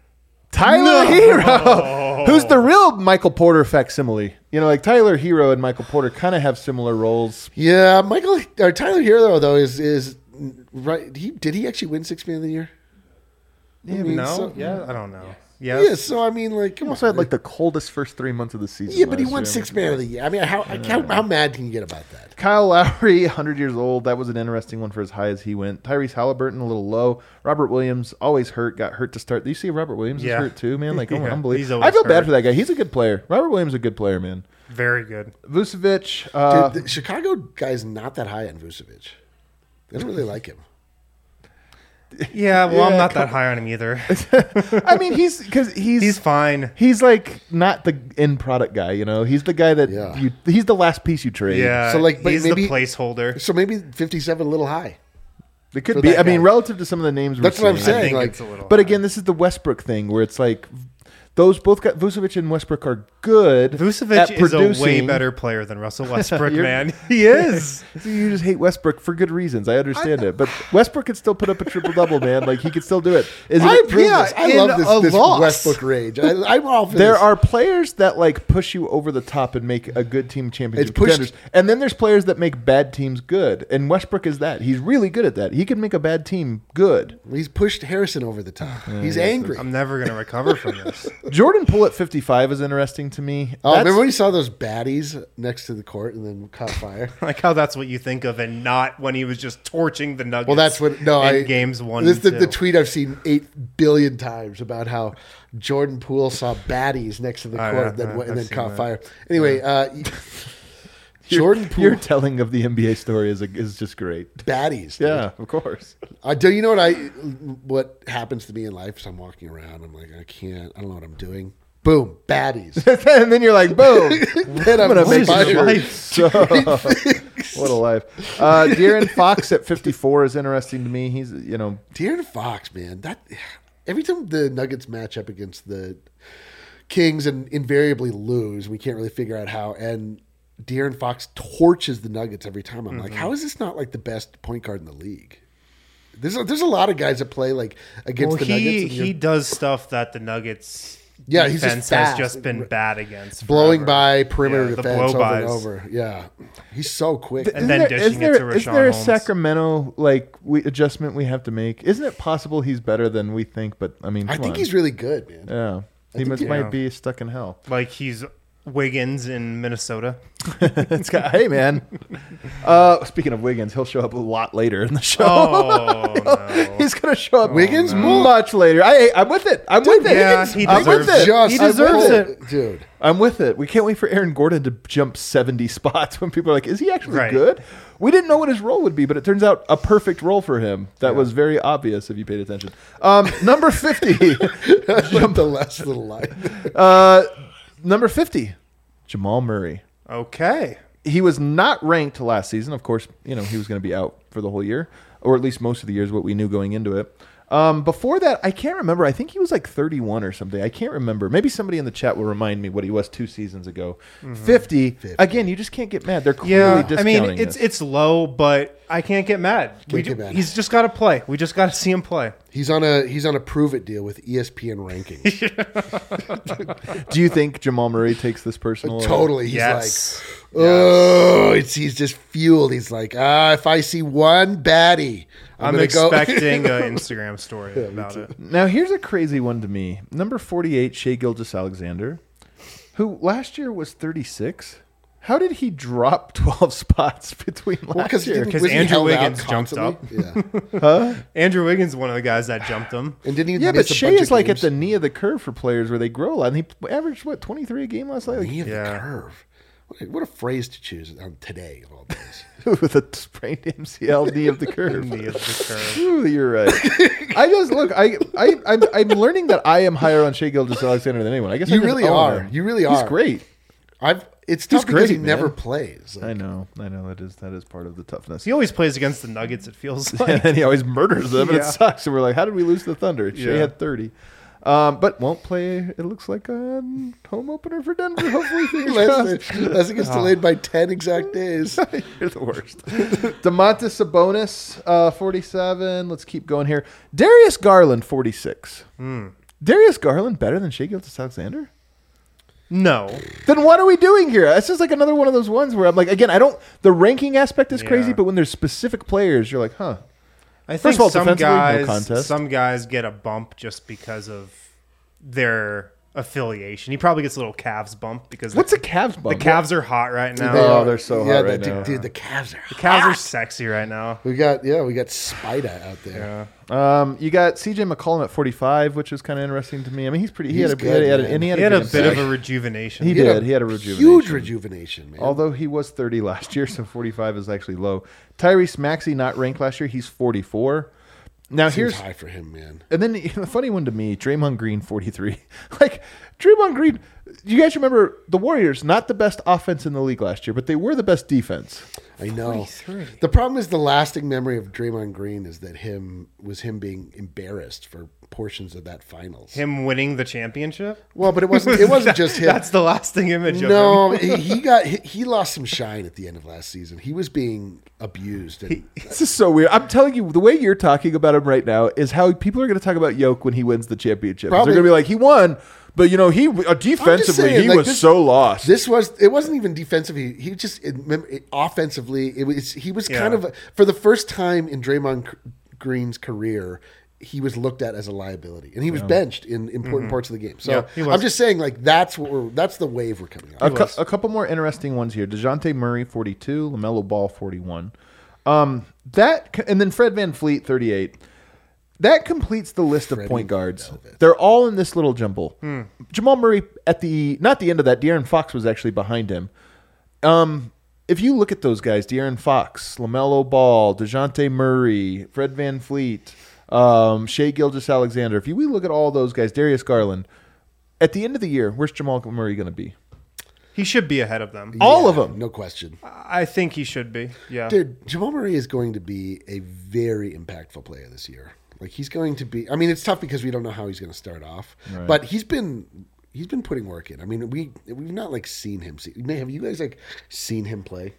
Tyler Hero, who's the real Michael Porter facsimile. You know, like Tyler Hero and Michael Porter kind of have similar roles. Yeah, Michael or Tyler Hero though is is right. He did he actually win Six Man of the Year? I mean, No? so- yeah, I don't know. Yes. Yeah, so I mean, like, come He on. also had like the coldest first three months of the season. yeah, but he last won year. Six Man of the Year. I mean, how how, how mad can you get about that? Kyle Lowry, one hundred years old. That was an interesting one for as high as he went. Tyrese Halliburton, a little low. Robert Williams, always hurt. Got hurt to start. Do you see Robert Williams is Yeah. hurt too, man? Like, oh, Yeah, he's unbelievable. always I feel bad hurt. for that guy. He's a good player. Robert Williams is a good player, man. Very good. Vucevic. Uh, Dude, the Chicago guy's not that high on Vucevic. They don't really like him. Yeah, well, Yeah, I'm not come- that high on him either. I mean, he's because he's He's fine. he's like not the end product guy. You know, he's the guy that Yeah. you. He's the last piece you trade. Yeah, So, like, but he's maybe- the placeholder. So maybe fifty-seven a little high. it could for be. that I mean, guy. relative to some of the names. That's we're what I'm seeing. I saying. think like, it's a little But high. again, this is the Westbrook thing where it's like those both got Vucevic and Westbrook are good. Vucevic at is a way producing. better player than Russell Westbrook, You're- man. He is. So you just hate Westbrook for good reasons. I understand it, but Westbrook could still put up a triple double, man. Like he could still do it. Is I it? approve yeah, this. I in love a this, this loss. Westbrook rage. I, I'm all for There this. are players that like push you over the top and make a good team championship It's pushed- contenders, and then there's players that make bad teams good. And Westbrook is that. He's really good at that. He can make a bad team good. He's pushed Harrison over the top. He's angry. I'm never going to recover from this. Jordan Poole at fifty-five is interesting to me. Oh, That's- remember when you saw those baddies next to the court and then caught fire? Like how that's what you think of, and not when he was just torching the Nuggets. Well, that's what. No, in I games one. This is the, and the two. tweet I've seen eight billion times about how Jordan Poole saw baddies next to the Oh, court yeah, and then, yeah, went- and I've then seen caught that. fire. Anyway, uh, Jordan Poole Your telling of the N B A story is a, is just great. baddies. dude. Yeah, of course. Uh, do you know what I? What happens to me in life? Is I'm walking around. I'm like, I can't. I don't know what I'm doing. Boom, baddies. And then you're like, boom. then I'm, I'm gonna make fired. your life so. What a life. Uh, De'Aaron Fox at fifty-four is interesting to me. He's, you know, De'Aaron Fox, man, that every time the Nuggets match up against the Kings and invariably lose, we can't really figure out how. And De'Aaron Fox torches the Nuggets every time. I'm like, how is this not like the best point guard in the league? There's a, there's a lot of guys that play like against Well, the he Nuggets. and you're he does stuff that the Nuggets Yeah, he's just defense fast. has just been bad against. blowing forever. by perimeter Yeah, the defense blow over and bys. over. Yeah, he's so quick. And then dishing isn't it there, to isn't there a Rashawn Holmes. Sacramento like we, adjustment we have to make? Isn't it possible he's better than we think? But I mean, I come think on. he's really good, man. yeah. He think must, he- might yeah. be stuck in hell. Like he's Wiggins in Minnesota. It's got, hey, man. Uh, speaking of Wiggins, he'll show up a lot later in the show. Oh, no. He's going to show up Wiggins? much later. I, I'm with it. I'm with it. yeah, he I'm with deserves it. Just He deserves I'm it. with dude. I'm with it. We can't wait for Aaron Gordon to jump seventy spots when people are like, is he actually Right. good? We didn't know what his role would be, but it turns out a perfect role for him. That was very obvious if you paid attention. Um, number fifty. Jump the last little line. uh, number fifty, Jamal Murray. Okay. He was not ranked last season. Of course, you know, he was going to be out for the whole year, or at least most of the year is what we knew going into it. Um, before that, I can't remember. I think he was like thirty-one or something. I can't remember. Maybe somebody in the chat will remind me what he was two seasons ago. Mm-hmm. fifty. fifty. Again, you just can't get mad. They're clearly Yeah, I discounting mean, it's this. it's low, but I can't get mad. We get ju- mad. He's just got to play. We just got to see him play. He's on a he's on a prove it deal with E S P N rankings. Do you think Jamal Murray takes this personal? Totally. He's Yes. like, oh, it's he's just fueled. He's like, ah, if I see one baddie, I'm, I'm gonna expecting an Instagram story about it. Now, here's a crazy one to me. Number forty-eight, Shai Gilgeous-Alexander, who last year was thirty-six. How did he drop twelve spots between last Well, because year? 'Cause Andrew Wiggins jumped up. Yeah, Andrew Wiggins is one of the guys that jumped him. and didn't he? Yeah, but miss a Shea bunch is of like games? at the knee of the curve for players where they grow a lot. And he averaged, what, twenty-three a game last night? Like, knee of Yeah. the curve. What a, what a phrase to choose on today of all days. with a sprained M C L, knee of the curve. Knee of the curve. Ooh, you're right. I just look. I I I'm, I'm learning that I am higher on Shai Gilgeous-Alexander than anyone. I guess I You just really own are. him. You really He's are. great. I've. It's tough He's because he great, never man. plays. Like, I know. I know. That is that is part of the toughness. He always plays against the Nuggets, it feels and like. then he always murders them, and it Yeah. sucks. And we're like, how did we lose to the Thunder? Shea Yeah. had thirty. Um, but won't play, it looks like, a home opener for Denver. Hopefully, fingers unless, crossed. unless it gets delayed by ten exact days. You're the worst. DeMontis Sabonis, uh, forty-seven. Let's keep going here. Darius Garland, forty-six. Hmm. Darius Garland better than Shai Gilgeous-Alexander? No. Then what are we doing here? That's just like another one of those ones where I'm like, again, I don't. The ranking aspect is crazy, Yeah. but when there's specific players, you're like, huh. I think First of all, some defensively, no guys, contest. some guys get a bump just because of their affiliation. He probably gets a little Cavs bump because What's the, a Cavs the bump? Cavs are hot right now. They The Oh, they're so hot right the, now. Dude, the Cavs are. Cavs are sexy right now. We got yeah, we got Spida out there. Yeah. Um, you got C J McCollum at forty-five, which is kind of interesting to me. I mean, he's pretty. He He's had a, good, he had a, man. and he had He a, had a good bit of impact. a rejuvenation. He He had did. a He had a rejuvenation. Huge rejuvenation, man. Although he was thirty last year, so forty-five is actually low. Tyrese Maxey not ranked last year. He's forty-four. Now Seems here's high for him, man. and then the funny one to me, Draymond Green, forty-three. Like Draymond Green, you guys remember the Warriors? Not the best offense in the league last year, but they were the best defense. I know. forty-three. The problem is the lasting memory of Draymond Green is that him was him being embarrassed for portions of that finals. Him winning the championship? Well, but it wasn't. It wasn't just him. That's the lasting image of him. No, he, he got he, he lost some shine at the end of last season. He was being abused. And, This is so weird. I'm telling you, the way you're talking about him right now is how people are going to talk about Yoke when he wins the championship. Probably- They're going to be like, he won, but you know, he uh, defensively saying, he like, was this- so lost. This was it wasn't even defensively. He just it, it, offensively it was he was kind Yeah. of for the first time in Draymond C- Green's career. He was looked at as a liability, and he was benched in important parts of the game. So Yeah, he was. I'm just saying, like that's what we're that's the wave we're coming a, on. cou- a couple more interesting ones here. DeJounte Murray, forty-two. LaMelo Ball, forty-one. Um, that and then Fred VanVleet, thirty-eight. That completes the list of Freddie point guards. Velvet. They're all in this little jumble. Jamal Murray at the not the end of that. De'Aaron Fox was actually behind him. Um, if you look at those guys, De'Aaron Fox, LaMelo Ball, DeJounte Murray, Fred VanVleet, um, Shai Gilgeous-Alexander. If you we look at all those guys, Darius Garland, at the end of the year, where's Jamal Murray going to be? He should be ahead of them. all of Yeah, them. no question. I think he should be. Yeah. Dude, Jamal Murray is going to be a very impactful player this year. Like he's going to be. I mean, it's tough because we don't know how he's going to start off, Right. but he's been he's been putting work in. I mean, we we've not like seen him. See, have you guys like seen him play?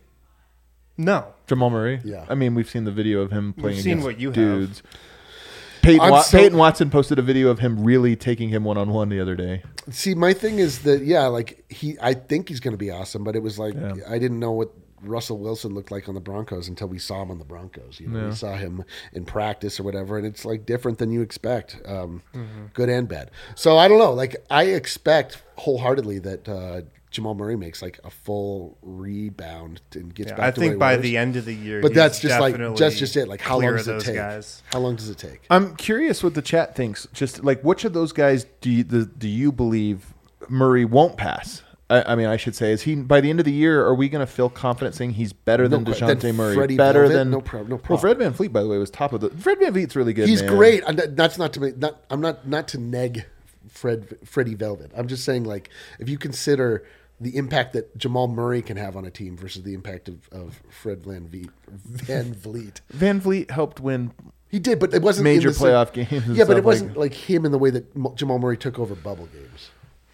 No. Jamal Murray? Yeah. I mean, we've seen the video of him playing seen against what you have. dudes. Peyton, I'm Wa- so- Peyton Watson posted a video of him really taking him one-on-one the other day. See, my thing is that yeah, like he, I think he's going to be awesome, but it was like Yeah. I didn't know what Russell Wilson looked like on the Broncos until we saw him on the Broncos. You know, Yeah. we saw him in practice or whatever, and it's like different than you expect, um, good and bad. So I don't know. Like I expect wholeheartedly that uh, Jamal Murray makes like a full rebound and gets Yeah, back I to where think he by was. the end of the year, But he's that's just like definitely that's just it. Like how long clear does of it those take? guys. How long does it take? I'm curious what the chat thinks. Just like which of those guys do you, the, do you believe Murray won't pass? I, I mean, I should say, is he by the end of the year? Are we going to feel confident saying he's better No than que- Dejounte than Murray? Freddie better Velvet? than No prob- no Well, problem. Fred Van Fleet, by the way, was top of the. Fred Van Fleet's really good. He's man. great. And that- that's not to me. Not I'm not not to neg Fred Freddie Velvet. I'm just saying like if you consider the impact that Jamal Murray can have on a team versus the impact of, of Fred Van Vliet, Van Vliet. Van Vliet helped win. He did, but it wasn't Major in the same- playoff games and Yeah, but stuff it wasn't like- like him in the way that Mo- Jamal Murray took over bubble games.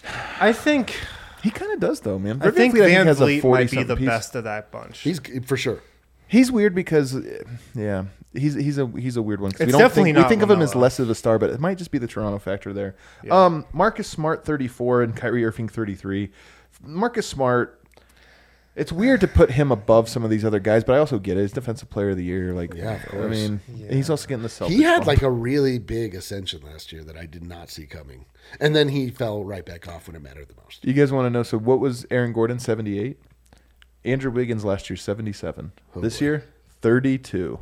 I think He kind of does though, man. I Fred think VanVleet, Van has a Vliet might be forty-something the piece. best of that bunch. He's for sure. He's weird because, uh, yeah, he's he's a he's a weird one. 'Cause we It's don't definitely think, we not think of him as Lamelo. less of a star, but it might just be the Toronto factor there. Yeah. Um, Marcus Smart, thirty-four, and Kyrie Irving, thirty-three. Marcus Smart. It's weird to put him above some of these other guys, but I also get it. He's Defensive Player of the Year. Like, Yeah, of I course. mean, Yeah. he's also getting the selfish. He had bump. like a really big ascension last year that I did not see coming, and then he fell right back off when it mattered the most. You guys want to know? So, what was Aaron Gordon? seventy-eight. Andrew Wiggins last year, seventy-seven. Oh, this boy. year, thirty-two.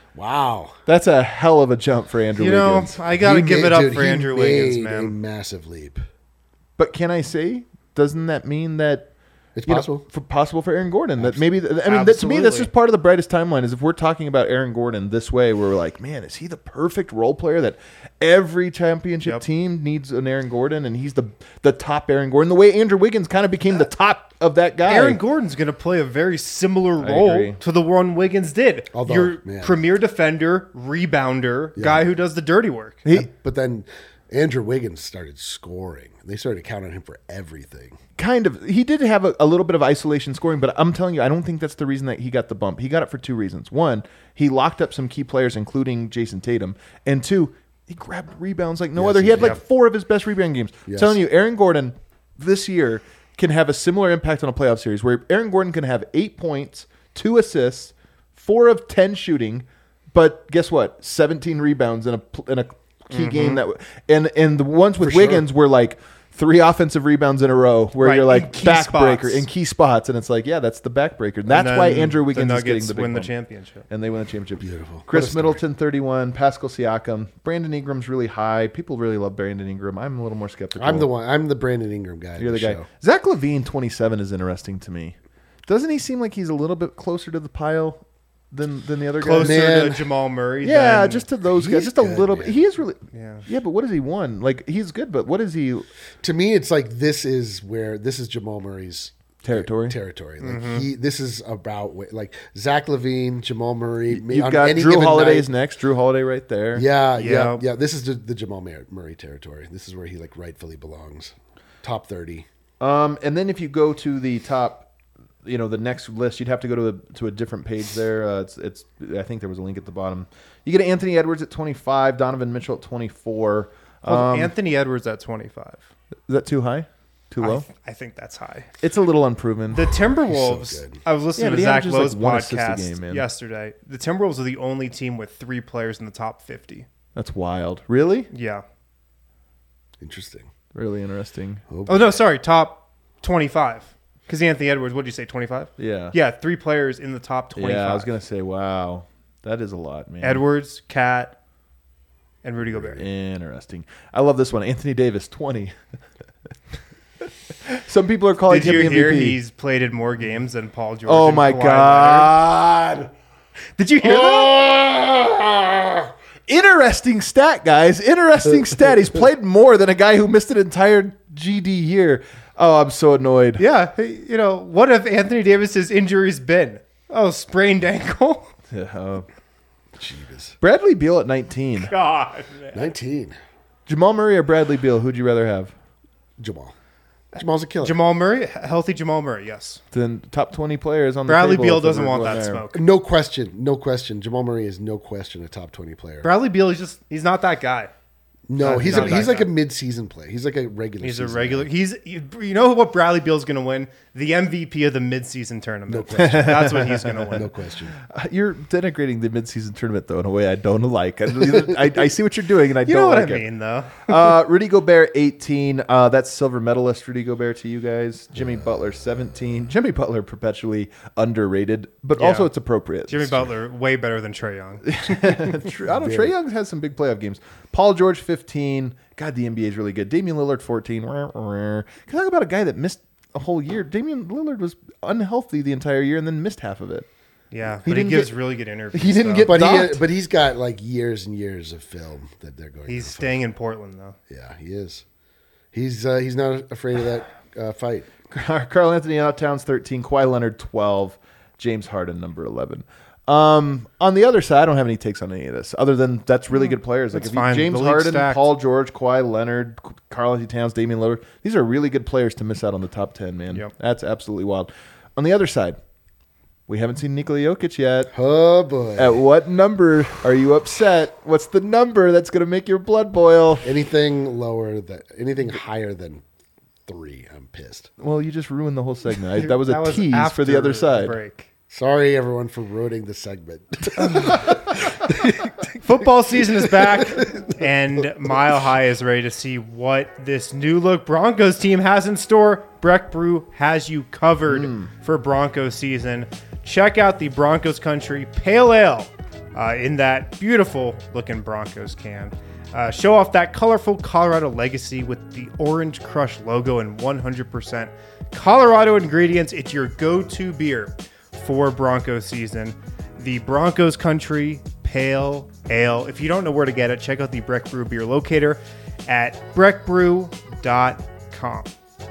Wow. That's a hell of a jump for Andrew you know, Wiggins. I gotta He give made- it up dude, for he Andrew Wiggins, made A man. massive leap. But can I say, doesn't that mean that It's you know, possible. for possible for Aaron Gordon? That maybe I mean that, to me that's Absolutely. just part of the brightest timeline. Is if we're talking about Aaron Gordon this way, where we're like, man, is he the perfect role player that every championship Yep. team needs an Aaron Gordon, and he's the the top Aaron Gordon. The way Andrew Wiggins kind of became the top of that guy. Aaron Gordon's going to play a very similar I role agree. to the one Wiggins did. Although, Your man. premier defender, rebounder, guy who does the dirty work. He But then Andrew Wiggins started scoring. They started counting on him for everything. kind of he did have a, a little bit of isolation scoring, but I'm telling you, I don't think that's the reason that he got the bump. He got it for two reasons. One, he locked up some key players, including Jason Tatum, and two, he grabbed rebounds like no Yes, other. He he had like did. four of his best rebound games. Yes. Telling you, Aaron Gordon this year can have a similar impact on a playoff series where Aaron Gordon can have eight points, two assists, four of ten shooting, but guess what? seventeen rebounds in a pl- in a key game that w- and and the ones with For sure. Wiggins were like three offensive rebounds in a row where Right, you're in like key backbreaker spots. in key spots, and it's like, yeah, that's the backbreaker. That's And why then Andrew Wiggins the is getting Nuggets the big win the bump. championship. And they win the championship. Beautiful. What a Chris story. Middleton, thirty-one. Pascal Siakam. Brandon Ingram's really high. People really love Brandon Ingram. I'm a little more skeptical. I'm the one. I'm the Brandon Ingram guy. You're of the guy. show. Zach Levine, twenty-seven, is interesting to me. Doesn't he seem like he's a little bit closer to the pile than than the other Closer guys? Man. to Jamal Murray. Yeah, than- just to those guys. He's Just a good, little man. bit. He is really. Yeah. Yeah, but what has he won? Like, he's good, but what is he? To me, it's like this is where this is Jamal Murray's Territory? Territory. Like Mm-hmm. he, this is about wh- like Zach Levine, Jamal Murray. You've on got any Drew given Holiday's night. next. Drew Holiday right there. Yeah, yeah, Yeah. yeah. This is the, the Jamal Mur- Murray territory. This is where he like rightfully belongs. Top thirty. Um, and then if you go to the top, you know, the next list, you'd have to go to a, to a different page there. Uh, it's, it's, I think there was a link at the bottom. You get Anthony Edwards at twenty-five, Donovan Mitchell at twenty-four. Hold on, Um, Anthony Edwards at twenty-five. is that too high? Too I, low? th- I think that's high. It's a little unproven. The Timberwolves. so good. I was Yeah, listening but to he Zach averages, like, Lowe's one assist a podcast game, man. yesterday. The Timberwolves are the only team with three players in the top fifty. That's wild. Really? Yeah. Interesting. Really interesting. Oh no, sorry, top twenty-five. Because Anthony Edwards, what did you say, twenty-five? Yeah. Yeah, three players in the top twenty-five. Yeah, I was gonna say, wow, that is a lot, man. Edwards, Cat, and Rudy Gobert. Interesting. I love this one. Anthony Davis, twenty. Some people are calling Did him you the hear M V P. he's played more games than Paul George? Oh and my Kawhi god! Leonard? Did you hear that? Interesting stat, guys. Interesting stat. He's played more than a guy who missed an entire G D year. Oh, I'm so annoyed. Yeah. hey, You know, what have Anthony Davis's injuries been? Oh, sprained ankle? Yeah, uh, Jeebus. Bradley Beal at nineteen. God, man. Nineteen. Jamal Murray or Bradley Beal? Who'd you rather have? Jamal. Jamal's a killer. Jamal Murray, healthy Jamal Murray, yes. Then top twenty players on the Bradley table Beal if doesn't we're want going that there. smoke. No question. No question. Jamal Murray is no question a top twenty player. Bradley Beal is just, he's not that guy. No, Uh, he's not a, that he's like guy. a mid-season play. He's like a regular. He's a season regular. guy. He's you you know what Bradley Beal's going to win? The M V P of the midseason tournament. No question. That's what he's going to win. No question. Uh, You're denigrating the midseason tournament though in a way I don't like. I, I, I see what you're doing, and I You don't know what like I it. mean, though. uh, Rudy Gobert, eighteen. Uh, that's silver medalist Rudy Gobert to you guys. Jimmy Butler, seventeen. Jimmy Butler, perpetually underrated, but Yeah. also it's appropriate. Jimmy Butler, way better than Trae Young. True. I don't know. Trey Young has some big playoff games. Paul George, fifteen. God, the N B A is really good. Damian Lillard, fourteen. Can I talk about a guy that missed a whole year? Damian Lillard was unhealthy the entire year and then missed half of it. Yeah, He but he didn't gives get- really good interviews. he didn't though. get- But he Docked. but he's got like years and years of film that they're going. He's to staying in Portland, though. Yeah, he is. He's uh, he's not afraid of that uh, fight. Carl Anthony Towns, thirteen. Kawhi Leonard, twelve. James Harden, number eleven. Um, on the other side, I don't have any takes on any of this, other than that's really good players. Like That's if you, fine. James The league's Harden, stacked. Paul George, Kawhi Leonard, Carl Anthony Towns, Damian Lillard. These are really good players to miss out on the top ten, man. Yep. That's absolutely wild. On the other side, we haven't seen Nikola Jokic yet. Oh boy! At what number are you upset? What's the number that's going to make your blood boil? anything lower than anything higher than three, I'm pissed. Well, you just ruined the whole segment. I, that was a That was tease for the after other side. break. Sorry, everyone, for ruining the segment. Football season is back, and Mile High is ready to see what this new look Broncos team has in store. Breck Brew has you covered for Broncos season. Check out the Broncos Country Pale Ale uh, in that beautiful looking Broncos can. Uh, show off that colorful Colorado legacy with the Orange Crush logo and one hundred percent Colorado ingredients. It's your go-to beer for Broncos season. The Broncos Country Pale Ale. If you don't know where to get it, check out the Breck Brew beer locator at breck brew dot com.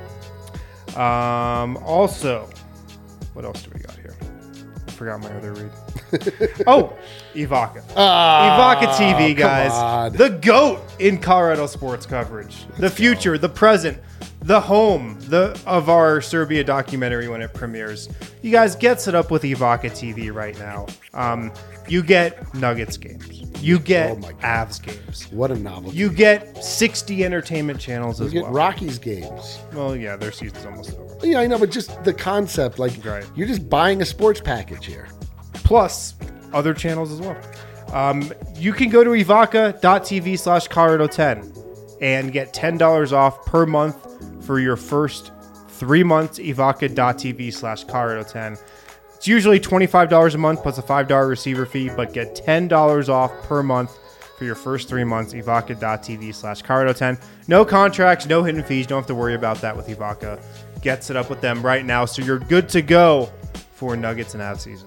Um, also, what else do we got here? I forgot my other read. Oh, Ivaka. Ivaka T V, guys. on. The GOAT in Colorado sports coverage. The future, the present, the home the of our Serbia documentary when it premieres. You guys get set up with Ivaka T V right now. Um, you get Nuggets games. You get Oh my God. Avs games. What a novelty! You get sixty entertainment channels You as get well. Rockies games. Well, yeah, their season's almost over. Yeah, I know, but just the concept, like Right. you're just buying a sports package here. Plus other channels as well. Um, you can go to ivaka.tv slash Colorado 10 and get ten dollars off per month for your first three months. Ivaka.tv slash Colorado 10. It's usually twenty-five dollars a month plus a five dollars receiver fee, but get ten dollars off per month for your first three months. Ivaka.tv slash Colorado 10. No contracts, no hidden fees. Don't have to worry about that with Ivaka. Get set up with them right now so you're good to go for Nuggets and Avs season.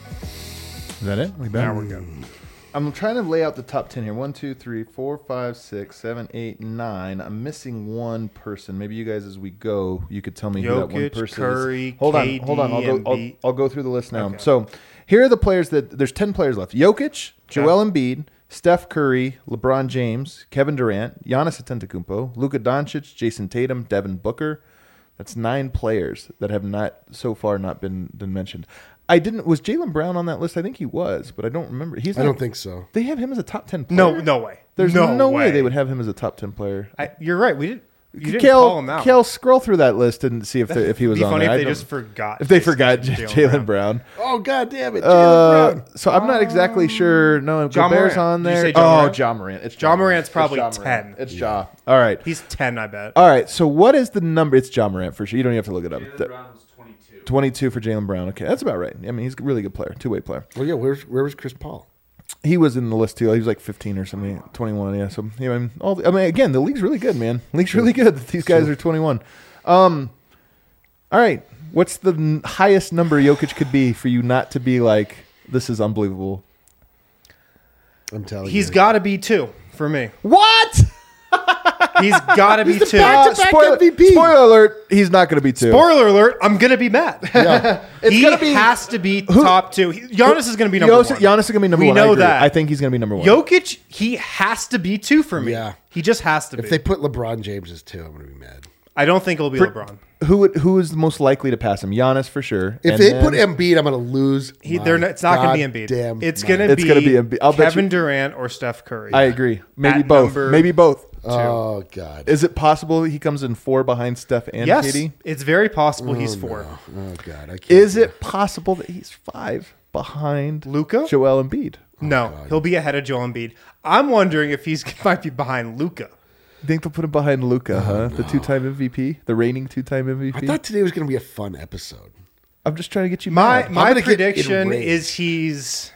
Is that it? We back? Now we're good. I'm trying to lay out the top ten here. One, two, three, four, five, six, seven, eight, nine. I'm missing one person. Maybe you guys, as we go, you could tell me who that one Jokic, person Curry, is. Hold K D, on, hold on. I'll go. I'll, Embiid. I'll go through the list now. Okay. So here are the players that there's ten players left: Jokic, Joel Embiid, Steph Curry, LeBron James, Kevin Durant, Giannis Antetokounmpo, Luka Doncic, Jason Tatum, Devin Booker. That's nine players that have not so far not been been mentioned. I didn't. Was Jaylen Brown on that list? I think he was, but I don't remember. He's. I not- don't think so. They have him as a top ten player. No, no way. There's no, no, way. they would have him as a top ten player. I, you're right. We did. You didn't Kale, call him out. Kale, scroll through that list and see if the, if he was It'd be on funny there. if I they don't- just forgot. if they Jason- forgot J- Jalen Brown. Oh God damn it, Jalen Uh, Brown. so I'm not exactly sure. No, John Gobert's Morant. on Did you there. say John oh, Morant? John Morant. It's John Morant's It's probably John Morant. ten. It's Ja. All right. He's ten, I bet. All right. So what is the number? It's John Morant for sure. You don't even have to look it up. Jalen Brown was twenty-two. twenty-two for Jalen Brown. Okay, that's about right. I mean, he's a really good player, two way player. Well, yeah. Where's where was Chris Paul? He was in the list too. He was like fifteen or something, twenty-one. Yeah. So you know, all the, I mean, again, the league's really good, man. The league's really good. These guys are twenty-one. Um, all right. What's the n- highest number Jokic could be for you not to be like, this is unbelievable? I'm telling you, He's got to be two for me. What? He's got to be two. back-to-back spoiler, M V P. spoiler alert. He's not going to be two. Spoiler alert, I'm going to be mad. Yeah. It's he gonna be- has to be top two. He- Giannis is going to be number Giannis, one. Giannis is going to be number We one. I know agree. that. I think he's going to be number one. Jokic, he has to be two for me. Yeah. He just has to be. If they put LeBron James as two, I'm gonna be mad. I don't think it'll be For- LeBron. Who would, who is the most likely to pass him? Giannis for sure. If And they then- put Embiid, I'm going to lose. He, my they're not, it's not going to be Embiid. goddamn It's mind. going to It's be, gonna be Embiid. I'll bet Kevin you- Durant or Steph Curry. I agree. Maybe At both. number Maybe both. Oh God. Is it possible he comes in four behind Steph and yes, Katie? it's very possible he's four. Oh God. I can't. Is it possible that he's five behind Luka? Joel Embiid? No, he'll be ahead of Joel Embiid. I'm wondering if he's might be behind Luka. You think they'll put him behind Luca, huh? The two-time M V P, the reigning two-time M V P. I thought today was going to be a fun episode. I'm just trying to get you. My mad. my gonna get prediction enraged. is he's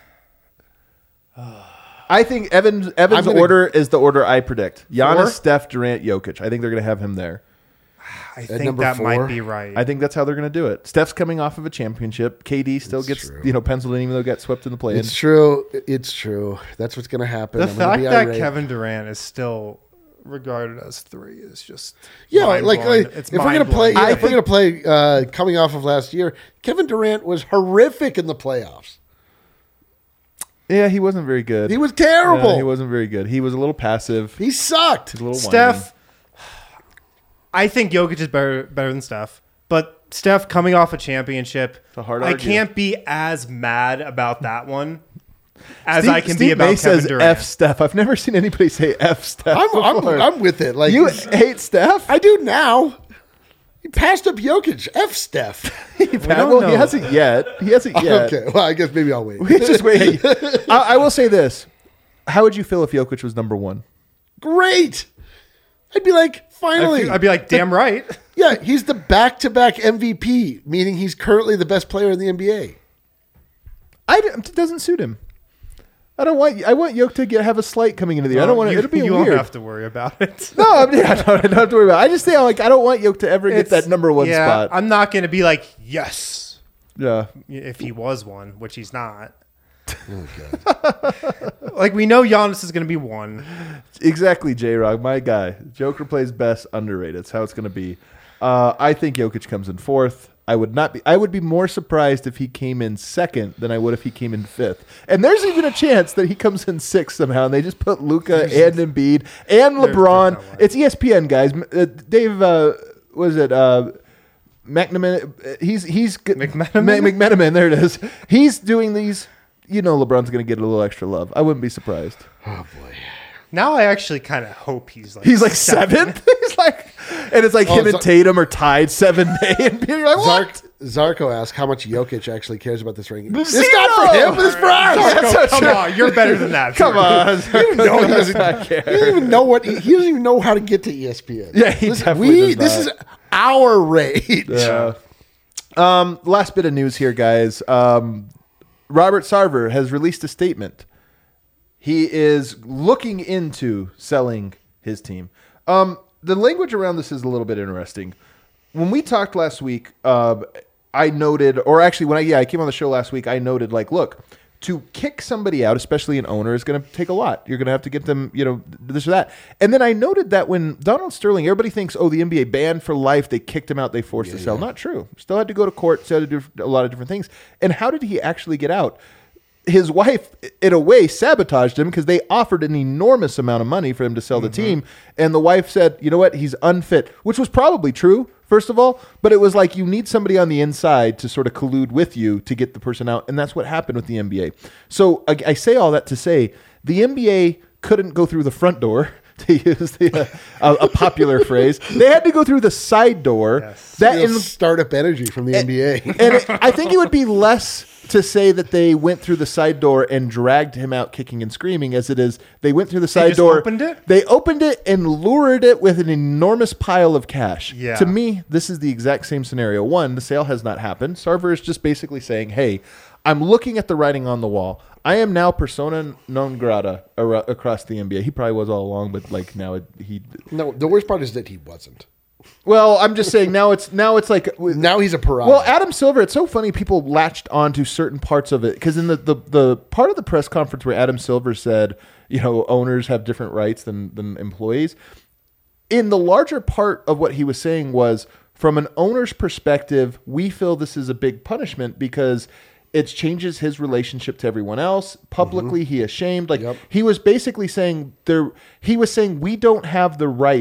I think Evans Evans' I'm gonna- order is the order I predict. Giannis, Four? Steph, Durant, Jokic. I think they're going to have him there. I think number that four? might be right. I think that's how they're going to do it. Steph's coming off of a championship. K D still It's gets true. you know penciled in, even though it got swept in the play-in. It's true. It's true. That's what's going to happen. the I'm gonna fact be that irate. Kevin Durant is still regarded as three is just Yeah, like, mind-blowing. like it's if we're gonna play, mind-blowing. yeah, if we're gonna play, uh, coming off of last year, Kevin Durant was horrific in the playoffs. Yeah, he wasn't very good. He was terrible. Yeah, he wasn't very good. He was a little passive. He sucked. He's a little whiny. Steph, I think Jokic is better better than Steph, but Steph coming off a championship, a hard I argue. can't be as mad about that one as Steve, I can Steve be about May Kevin says Durant. F Steph. I've never seen anybody say F Steph. I'm, I'm, before. I'm with it. Like you hate Steph? I do now. He passed up Jokic. F Steph. well, don't he know. hasn't yet. He hasn't yet. Okay. Well, I guess maybe I'll wait. He's just waiting. I, I will say this: how would you feel if Jokic was number one? Great. I'd be like, I'd, finally. be- I'd be like, damn right. Yeah, he's the back-to-back M V P, meaning he's currently the best player in the N B A. I it doesn't suit him. I don't want. I want Jokic to get, have a slight coming into the year. I don't want. You, It'll be you weird. won't have to worry about it. No, I'm, yeah, I, don't, I don't have to worry about it. I just think like I don't want Jokic to ever get It's- that number one yeah, spot. I'm not going to be like, yes, yeah. if he was one, which he's not. Oh, God. Like, we know Giannis is going to be one. Exactly, J-Rock, my guy. Joker plays best, underrated. That's how it's going to be. Uh, I think Jokic comes in fourth. I would not be. I would be more surprised if he came in second than I would if he came in fifth. And there's even a chance that he comes in sixth somehow, and they just put Luka and Embiid and LeBron. there's no way. It's E S P N, guys. Uh, Dave, uh, was it uh, McMenamin? He's he's McMenamin? McMenamin. There it is. He's doing these. You know, LeBron's going to get a little extra love. I wouldn't be surprised. Oh, boy. Now I actually kind of hope he's like He's like seventh. He's like, and it's like Oh, him and Zar- Tatum are tied seven day, and you're like, what? Zark, Zarko asked how much Jokic actually cares about this ranking. It's Zero! not for him, but it's for us. That's Go, not come true. on, you're better than that. Come on, No, he doesn't, I he care. doesn't even know what he, he doesn't even know how to get to E S P N. Yeah, he Listen, definitely we, does This not. is our rage. Yeah. Um, last bit of news here, guys. Um, Robert Sarver has released a statement. He is looking into selling his team. Um, the language around this is a little bit interesting. When we talked last week, uh, I noted, or actually, when I yeah I came on the show last week, I noted like, look, to kick somebody out, especially an owner, is going to take a lot. You're going to have to get them, you know, this or that. And then I noted that when Donald Sterling, everybody thinks, oh, the N B A banned for life. They kicked him out. They forced to sell. Not true. Still had to go to court. Still had to do a lot of different things. And how did he actually get out? His wife, in a way, sabotaged him because they offered an enormous amount of money for him to sell the team. And the wife said, you know what? He's unfit, which was probably true, first of all. But it was like you need somebody on the inside to sort of collude with you to get the person out. And that's what happened with the N B A. So I, I say all that to say the N B A couldn't go through the front door, to use the, uh, a, a popular phrase. They had to go through the side door. Yes. That Real in, startup energy from the N B A. and it, I think it would be less to say that they went through the side door and dragged him out kicking and screaming as it is they went through the side just door. opened it? They opened it and lured it with an enormous pile of cash. Yeah. To me, this is the exact same scenario. One, the sale has not happened. Sarver is just basically saying, hey, I'm looking at the writing on the wall. I am now persona non grata ar- across the N B A. He probably was all along, but like now it, he. No, the worst part is that he wasn't. Well, I'm just saying now it's now it's like Now he's a pariah. well, Adam Silver, it's so funny people latched onto certain parts of it because in the, the, the part of the press conference where Adam Silver said, you know, owners have different rights than, than employees, in the larger part of what he was saying was from an owner's perspective, we feel this is a big punishment because it changes his relationship to everyone else. Publicly, mm-hmm. he is shamed. Like Yep. he was basically saying there, he was saying we don't have the right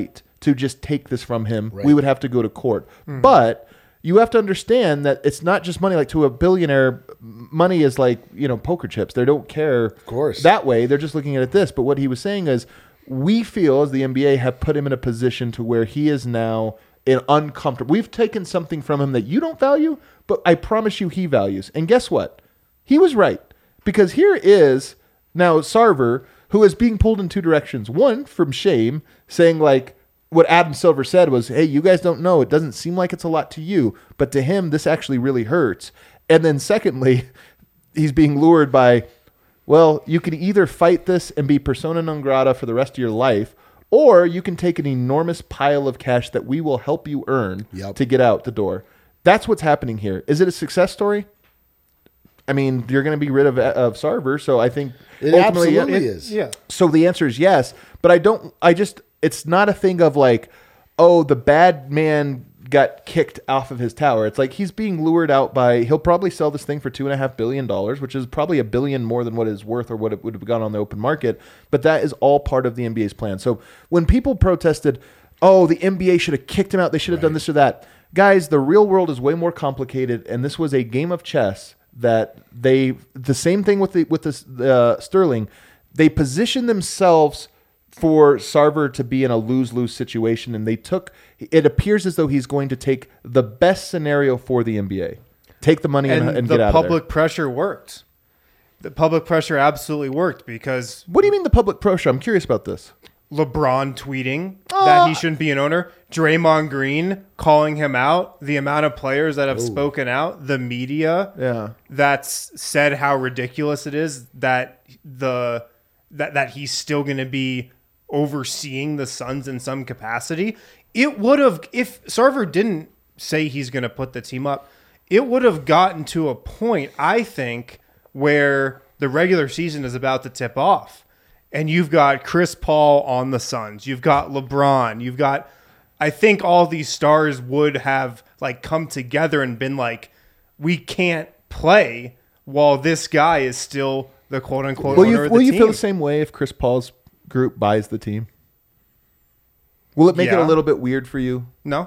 to just take this from him. Right. We would have to go to court. Mm-hmm. But you have to understand that it's not just money. Like to a billionaire, money is like, you know, poker chips. They don't care of course. that way. They're just looking at it this. But what he was saying is we feel as the N B A have put him in a position to where he is now in uncomfortable. We've taken something from him that you don't value, but I promise you he values. And guess what? He was right. Because here is now Sarver, who is being pulled in two directions. One, from shame, saying like, what Adam Silver said was, hey, you guys don't know. It doesn't seem like it's a lot to you, but to him, this actually really hurts. And then secondly, he's being lured by, well, you can either fight this and be persona non grata for the rest of your life, or you can take an enormous pile of cash that we will help you earn yep. to get out the door. That's what's happening here. Is it a success story? I mean, you're going to be rid of, of Sarver, so I think it ultimately absolutely it, is. Yeah. So the answer is yes, but I don't. I just. It's not a thing of like, oh, the bad man got kicked off of his tower. It's like he's being lured out by. He'll probably sell this thing for two and a half billion dollars, which is probably a billion more than what it's worth or what it would have gone on the open market. But that is all part of the N B A's plan. So when people protested, oh, the N B A should have kicked him out. They should have right. done this or that. Guys, the real world is way more complicated, and this was a game of chess. That they the same thing with the with this uh, Sterling, they positioned themselves for Sarver to be in a lose-lose situation, and they took. It appears as though he's going to take the best scenario for the N B A, take the money and, and, and the get out of there. public pressure worked. The public pressure absolutely worked because What do you mean the public pressure? I'm curious about this. LeBron tweeting Uh, that he shouldn't be an owner, Draymond Green calling him out, the amount of players that have Ooh. spoken out, the media Yeah. that's said how ridiculous it is that the that that he's still going to be overseeing the Suns in some capacity. It would have, if Sarver didn't say he's going to put the team up, it would have gotten to a point, I think, where the regular season is about to tip off. And you've got Chris Paul on the Suns. You've got LeBron. You've got, I think all these stars would have like come together and been like, we can't play while this guy is still the quote unquote Will owner you of the will you team. feel the same way if Chris Paul's group buys the team? Will it make it Yeah. a little bit weird for you? No.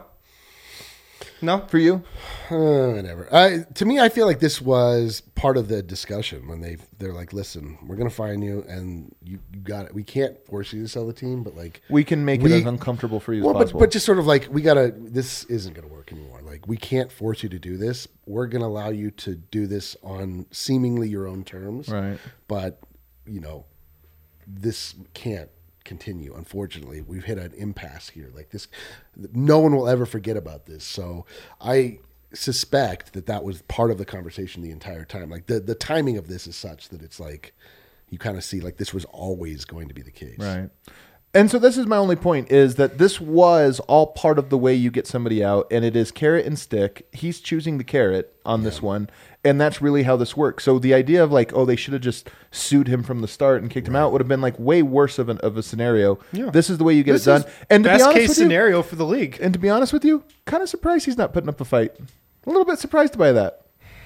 No. For you? Uh, whatever. I, to me, I feel like this was part of the discussion when they they're like, "Listen, we're gonna fine you, and you, you got it. We can't force you to sell the team, but like We can make we- it as uncomfortable for you well, as but, possible. but just sort of like we gotta. This isn't gonna work anymore. Like we can't force you to do this. We're gonna allow you to do this on seemingly your own terms, Right. But you know, this can't continue. Unfortunately, we've hit an impasse here. Like this, no one will ever forget about this. So I suspect that that was part of the conversation the entire time. Like the, the timing of this is such that it's like you kind of see like this was always going to be the case. Right. And so this is my only point is that this was all part of the way you get somebody out, and it is carrot and stick. He's choosing the carrot on this one, and that's really how this works. So the idea of like, oh, they should have just sued him from the start and kicked him out would have been like way worse of, an, of a scenario. Yeah. This is the way you get This it done. is And to be best honest case with you, scenario for the league. and to be honest with you, kind of surprised he's not putting up a fight. A little bit surprised by that.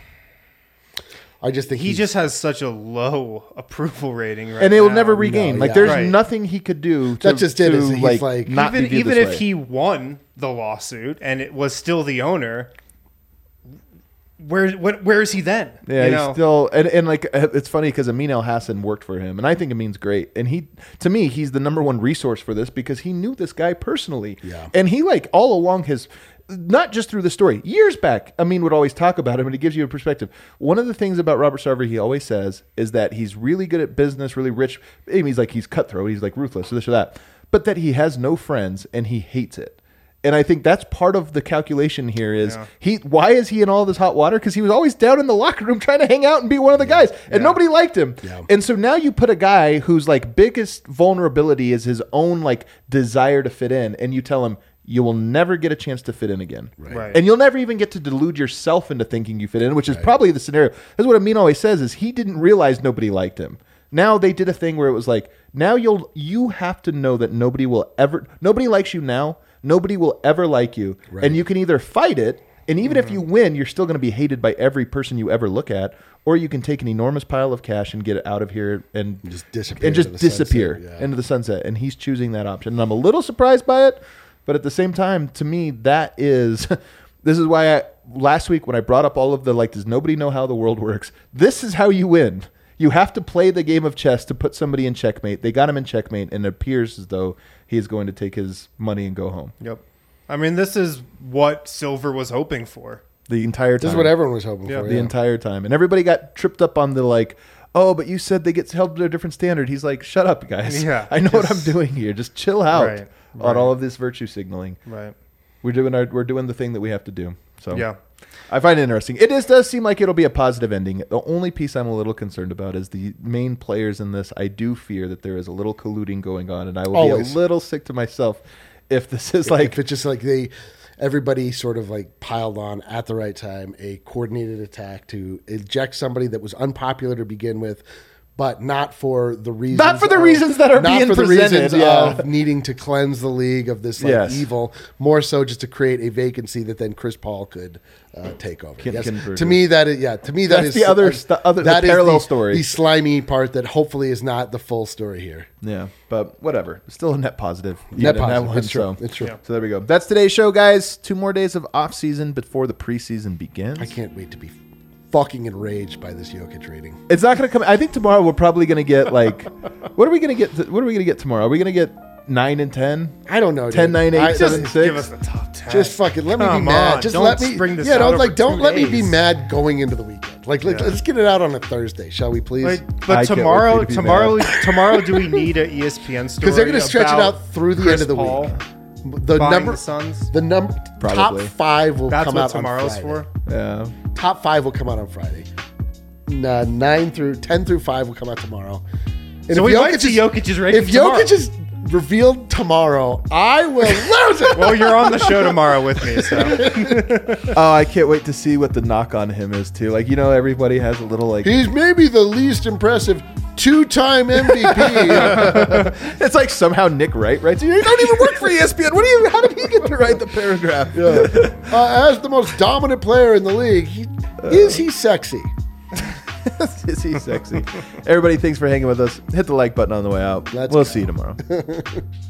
I just think He he's- just has such a low approval rating right And it will now. never regain. No, like yeah. there's Right. nothing he could do to, That's just it, to is he's like, like- not even be viewed even this if way. he won the lawsuit and it was still the owner, where what, where is he then? Yeah, you he's know? still and, and like uh, it's funny because Amin El Hassan worked for him, and I think Amin's great. And he, to me, he's the number one resource for this because he knew this guy personally. Yeah. and he like all along his, not just through the story, years back, Amin would always talk about him, and it gives you a perspective. One of the things about Robert Sarver he always says is that he's really good at business, really rich. I mean, he's like he's cutthroat, he's like ruthless, or this or that, but that he has no friends and he hates it. And I think that's part of the calculation here is Yeah. he. Why is he in all this hot water? Because he was always down in the locker room trying to hang out and be one of the guys, and Yeah. nobody liked him. Yeah. And so now you put a guy whose like biggest vulnerability is his own like desire to fit in, and you tell him you will never get a chance to fit in again, Right. and you'll never even get to delude yourself into thinking you fit in, which is probably the scenario. That's what Amin always says: is he didn't realize nobody liked him. Now they did a thing where it was like, now you'll you have to know that nobody will ever nobody likes you now. Nobody will ever like you. Right. And you can either fight it, and even if you win, you're still going to be hated by every person you ever look at, or you can take an enormous pile of cash and get it out of here and Just disappear and just into the disappear sunset, yeah. into the sunset. And he's choosing that option. And I'm a little surprised by it, But at the same time, to me, that is this is why I, last week when I brought up all of the like, does nobody know how the world works? This is how you win. You have to play the game of chess to put somebody in checkmate. They got him in checkmate, and it appears as though he is going to take his money and go home. Yep. I mean, this is what Silver was hoping for. The entire time. This is what everyone was hoping Yeah. for. The yeah. entire time. And everybody got tripped up on the like, oh, but you said they get held to a different standard. He's like, shut up, guys. Yeah, I know what just- I'm doing here. Just chill out Right, on right. all of this virtue signaling. Right. We're doing our we're doing the thing that we have to do. So Yeah. I find it interesting. It is, does seem like it'll be a positive ending. The only piece I'm a little concerned about is the main players in this. I do fear that there is a little colluding going on, and I will Always. be a little sick to myself if this is like if it's just like they, everybody sort of like piled on at the right time, a coordinated attack to eject somebody that was unpopular to begin with, but not for the reasons Not for the of- reasons that are not being for the presented, reasons yeah. of needing to cleanse the league of this like Yes. evil, more so just to create a vacancy that then Chris Paul could uh, take over. Can- Yes. convert To it. me, that is yeah. To me, that That's is the other uh, st- other- the that is parallel story. The slimy part that hopefully is not the full story here. Yeah, but whatever. Still a net positive. Net even in that positive. one, It's true. so- It's true. Yeah. So there we go. That's today's show, guys. Two more days of off season before the preseason begins. I can't wait to be fucking enraged by this Jokic rating. It's not going to come. I think tomorrow we're probably going to get like, what are we going to get? What are we going to get tomorrow? Are we going to get nine and ten? I don't know. ten, dude. nine, eight, I- seven, just, six. Give us the top ten. just fucking let me Come be mad. on, Just don't let me. spring this yeah, out don't over like. Don't two let me be days. mad going into the weekend. Like, like Yeah. let's get it out on a Thursday, shall we, please? Like, I but can't wait for tomorrow, you to be tomorrow, mad. tomorrow, do we need a E S P N story? Because they're going to stretch it about out through the Chris end of the Paul week. The buying number, the Suns? the number, top Probably. five will That's come what out tomorrow's on for. Friday. Yeah. Top five will come out on Friday. Nah, nine through ten through five will come out tomorrow. And So if we might Jokic see is- Jokic's rating If tomorrow. Jokic is revealed tomorrow, I will lose it. Well, you're on the show tomorrow with me, so Oh, I can't wait to see what the knock on him is too. Like, you know, everybody has a little like. He's maybe the least impressive two-time M V P. It's like somehow Nick Wright writes. You don't even work for E S P N. What do you? How did he get to write the paragraph? uh, as the most dominant player in the league, he, is he sexy? Is he sexy? Everybody, thanks for hanging with us. Hit the like button on the way out. Let's we'll go. see you tomorrow.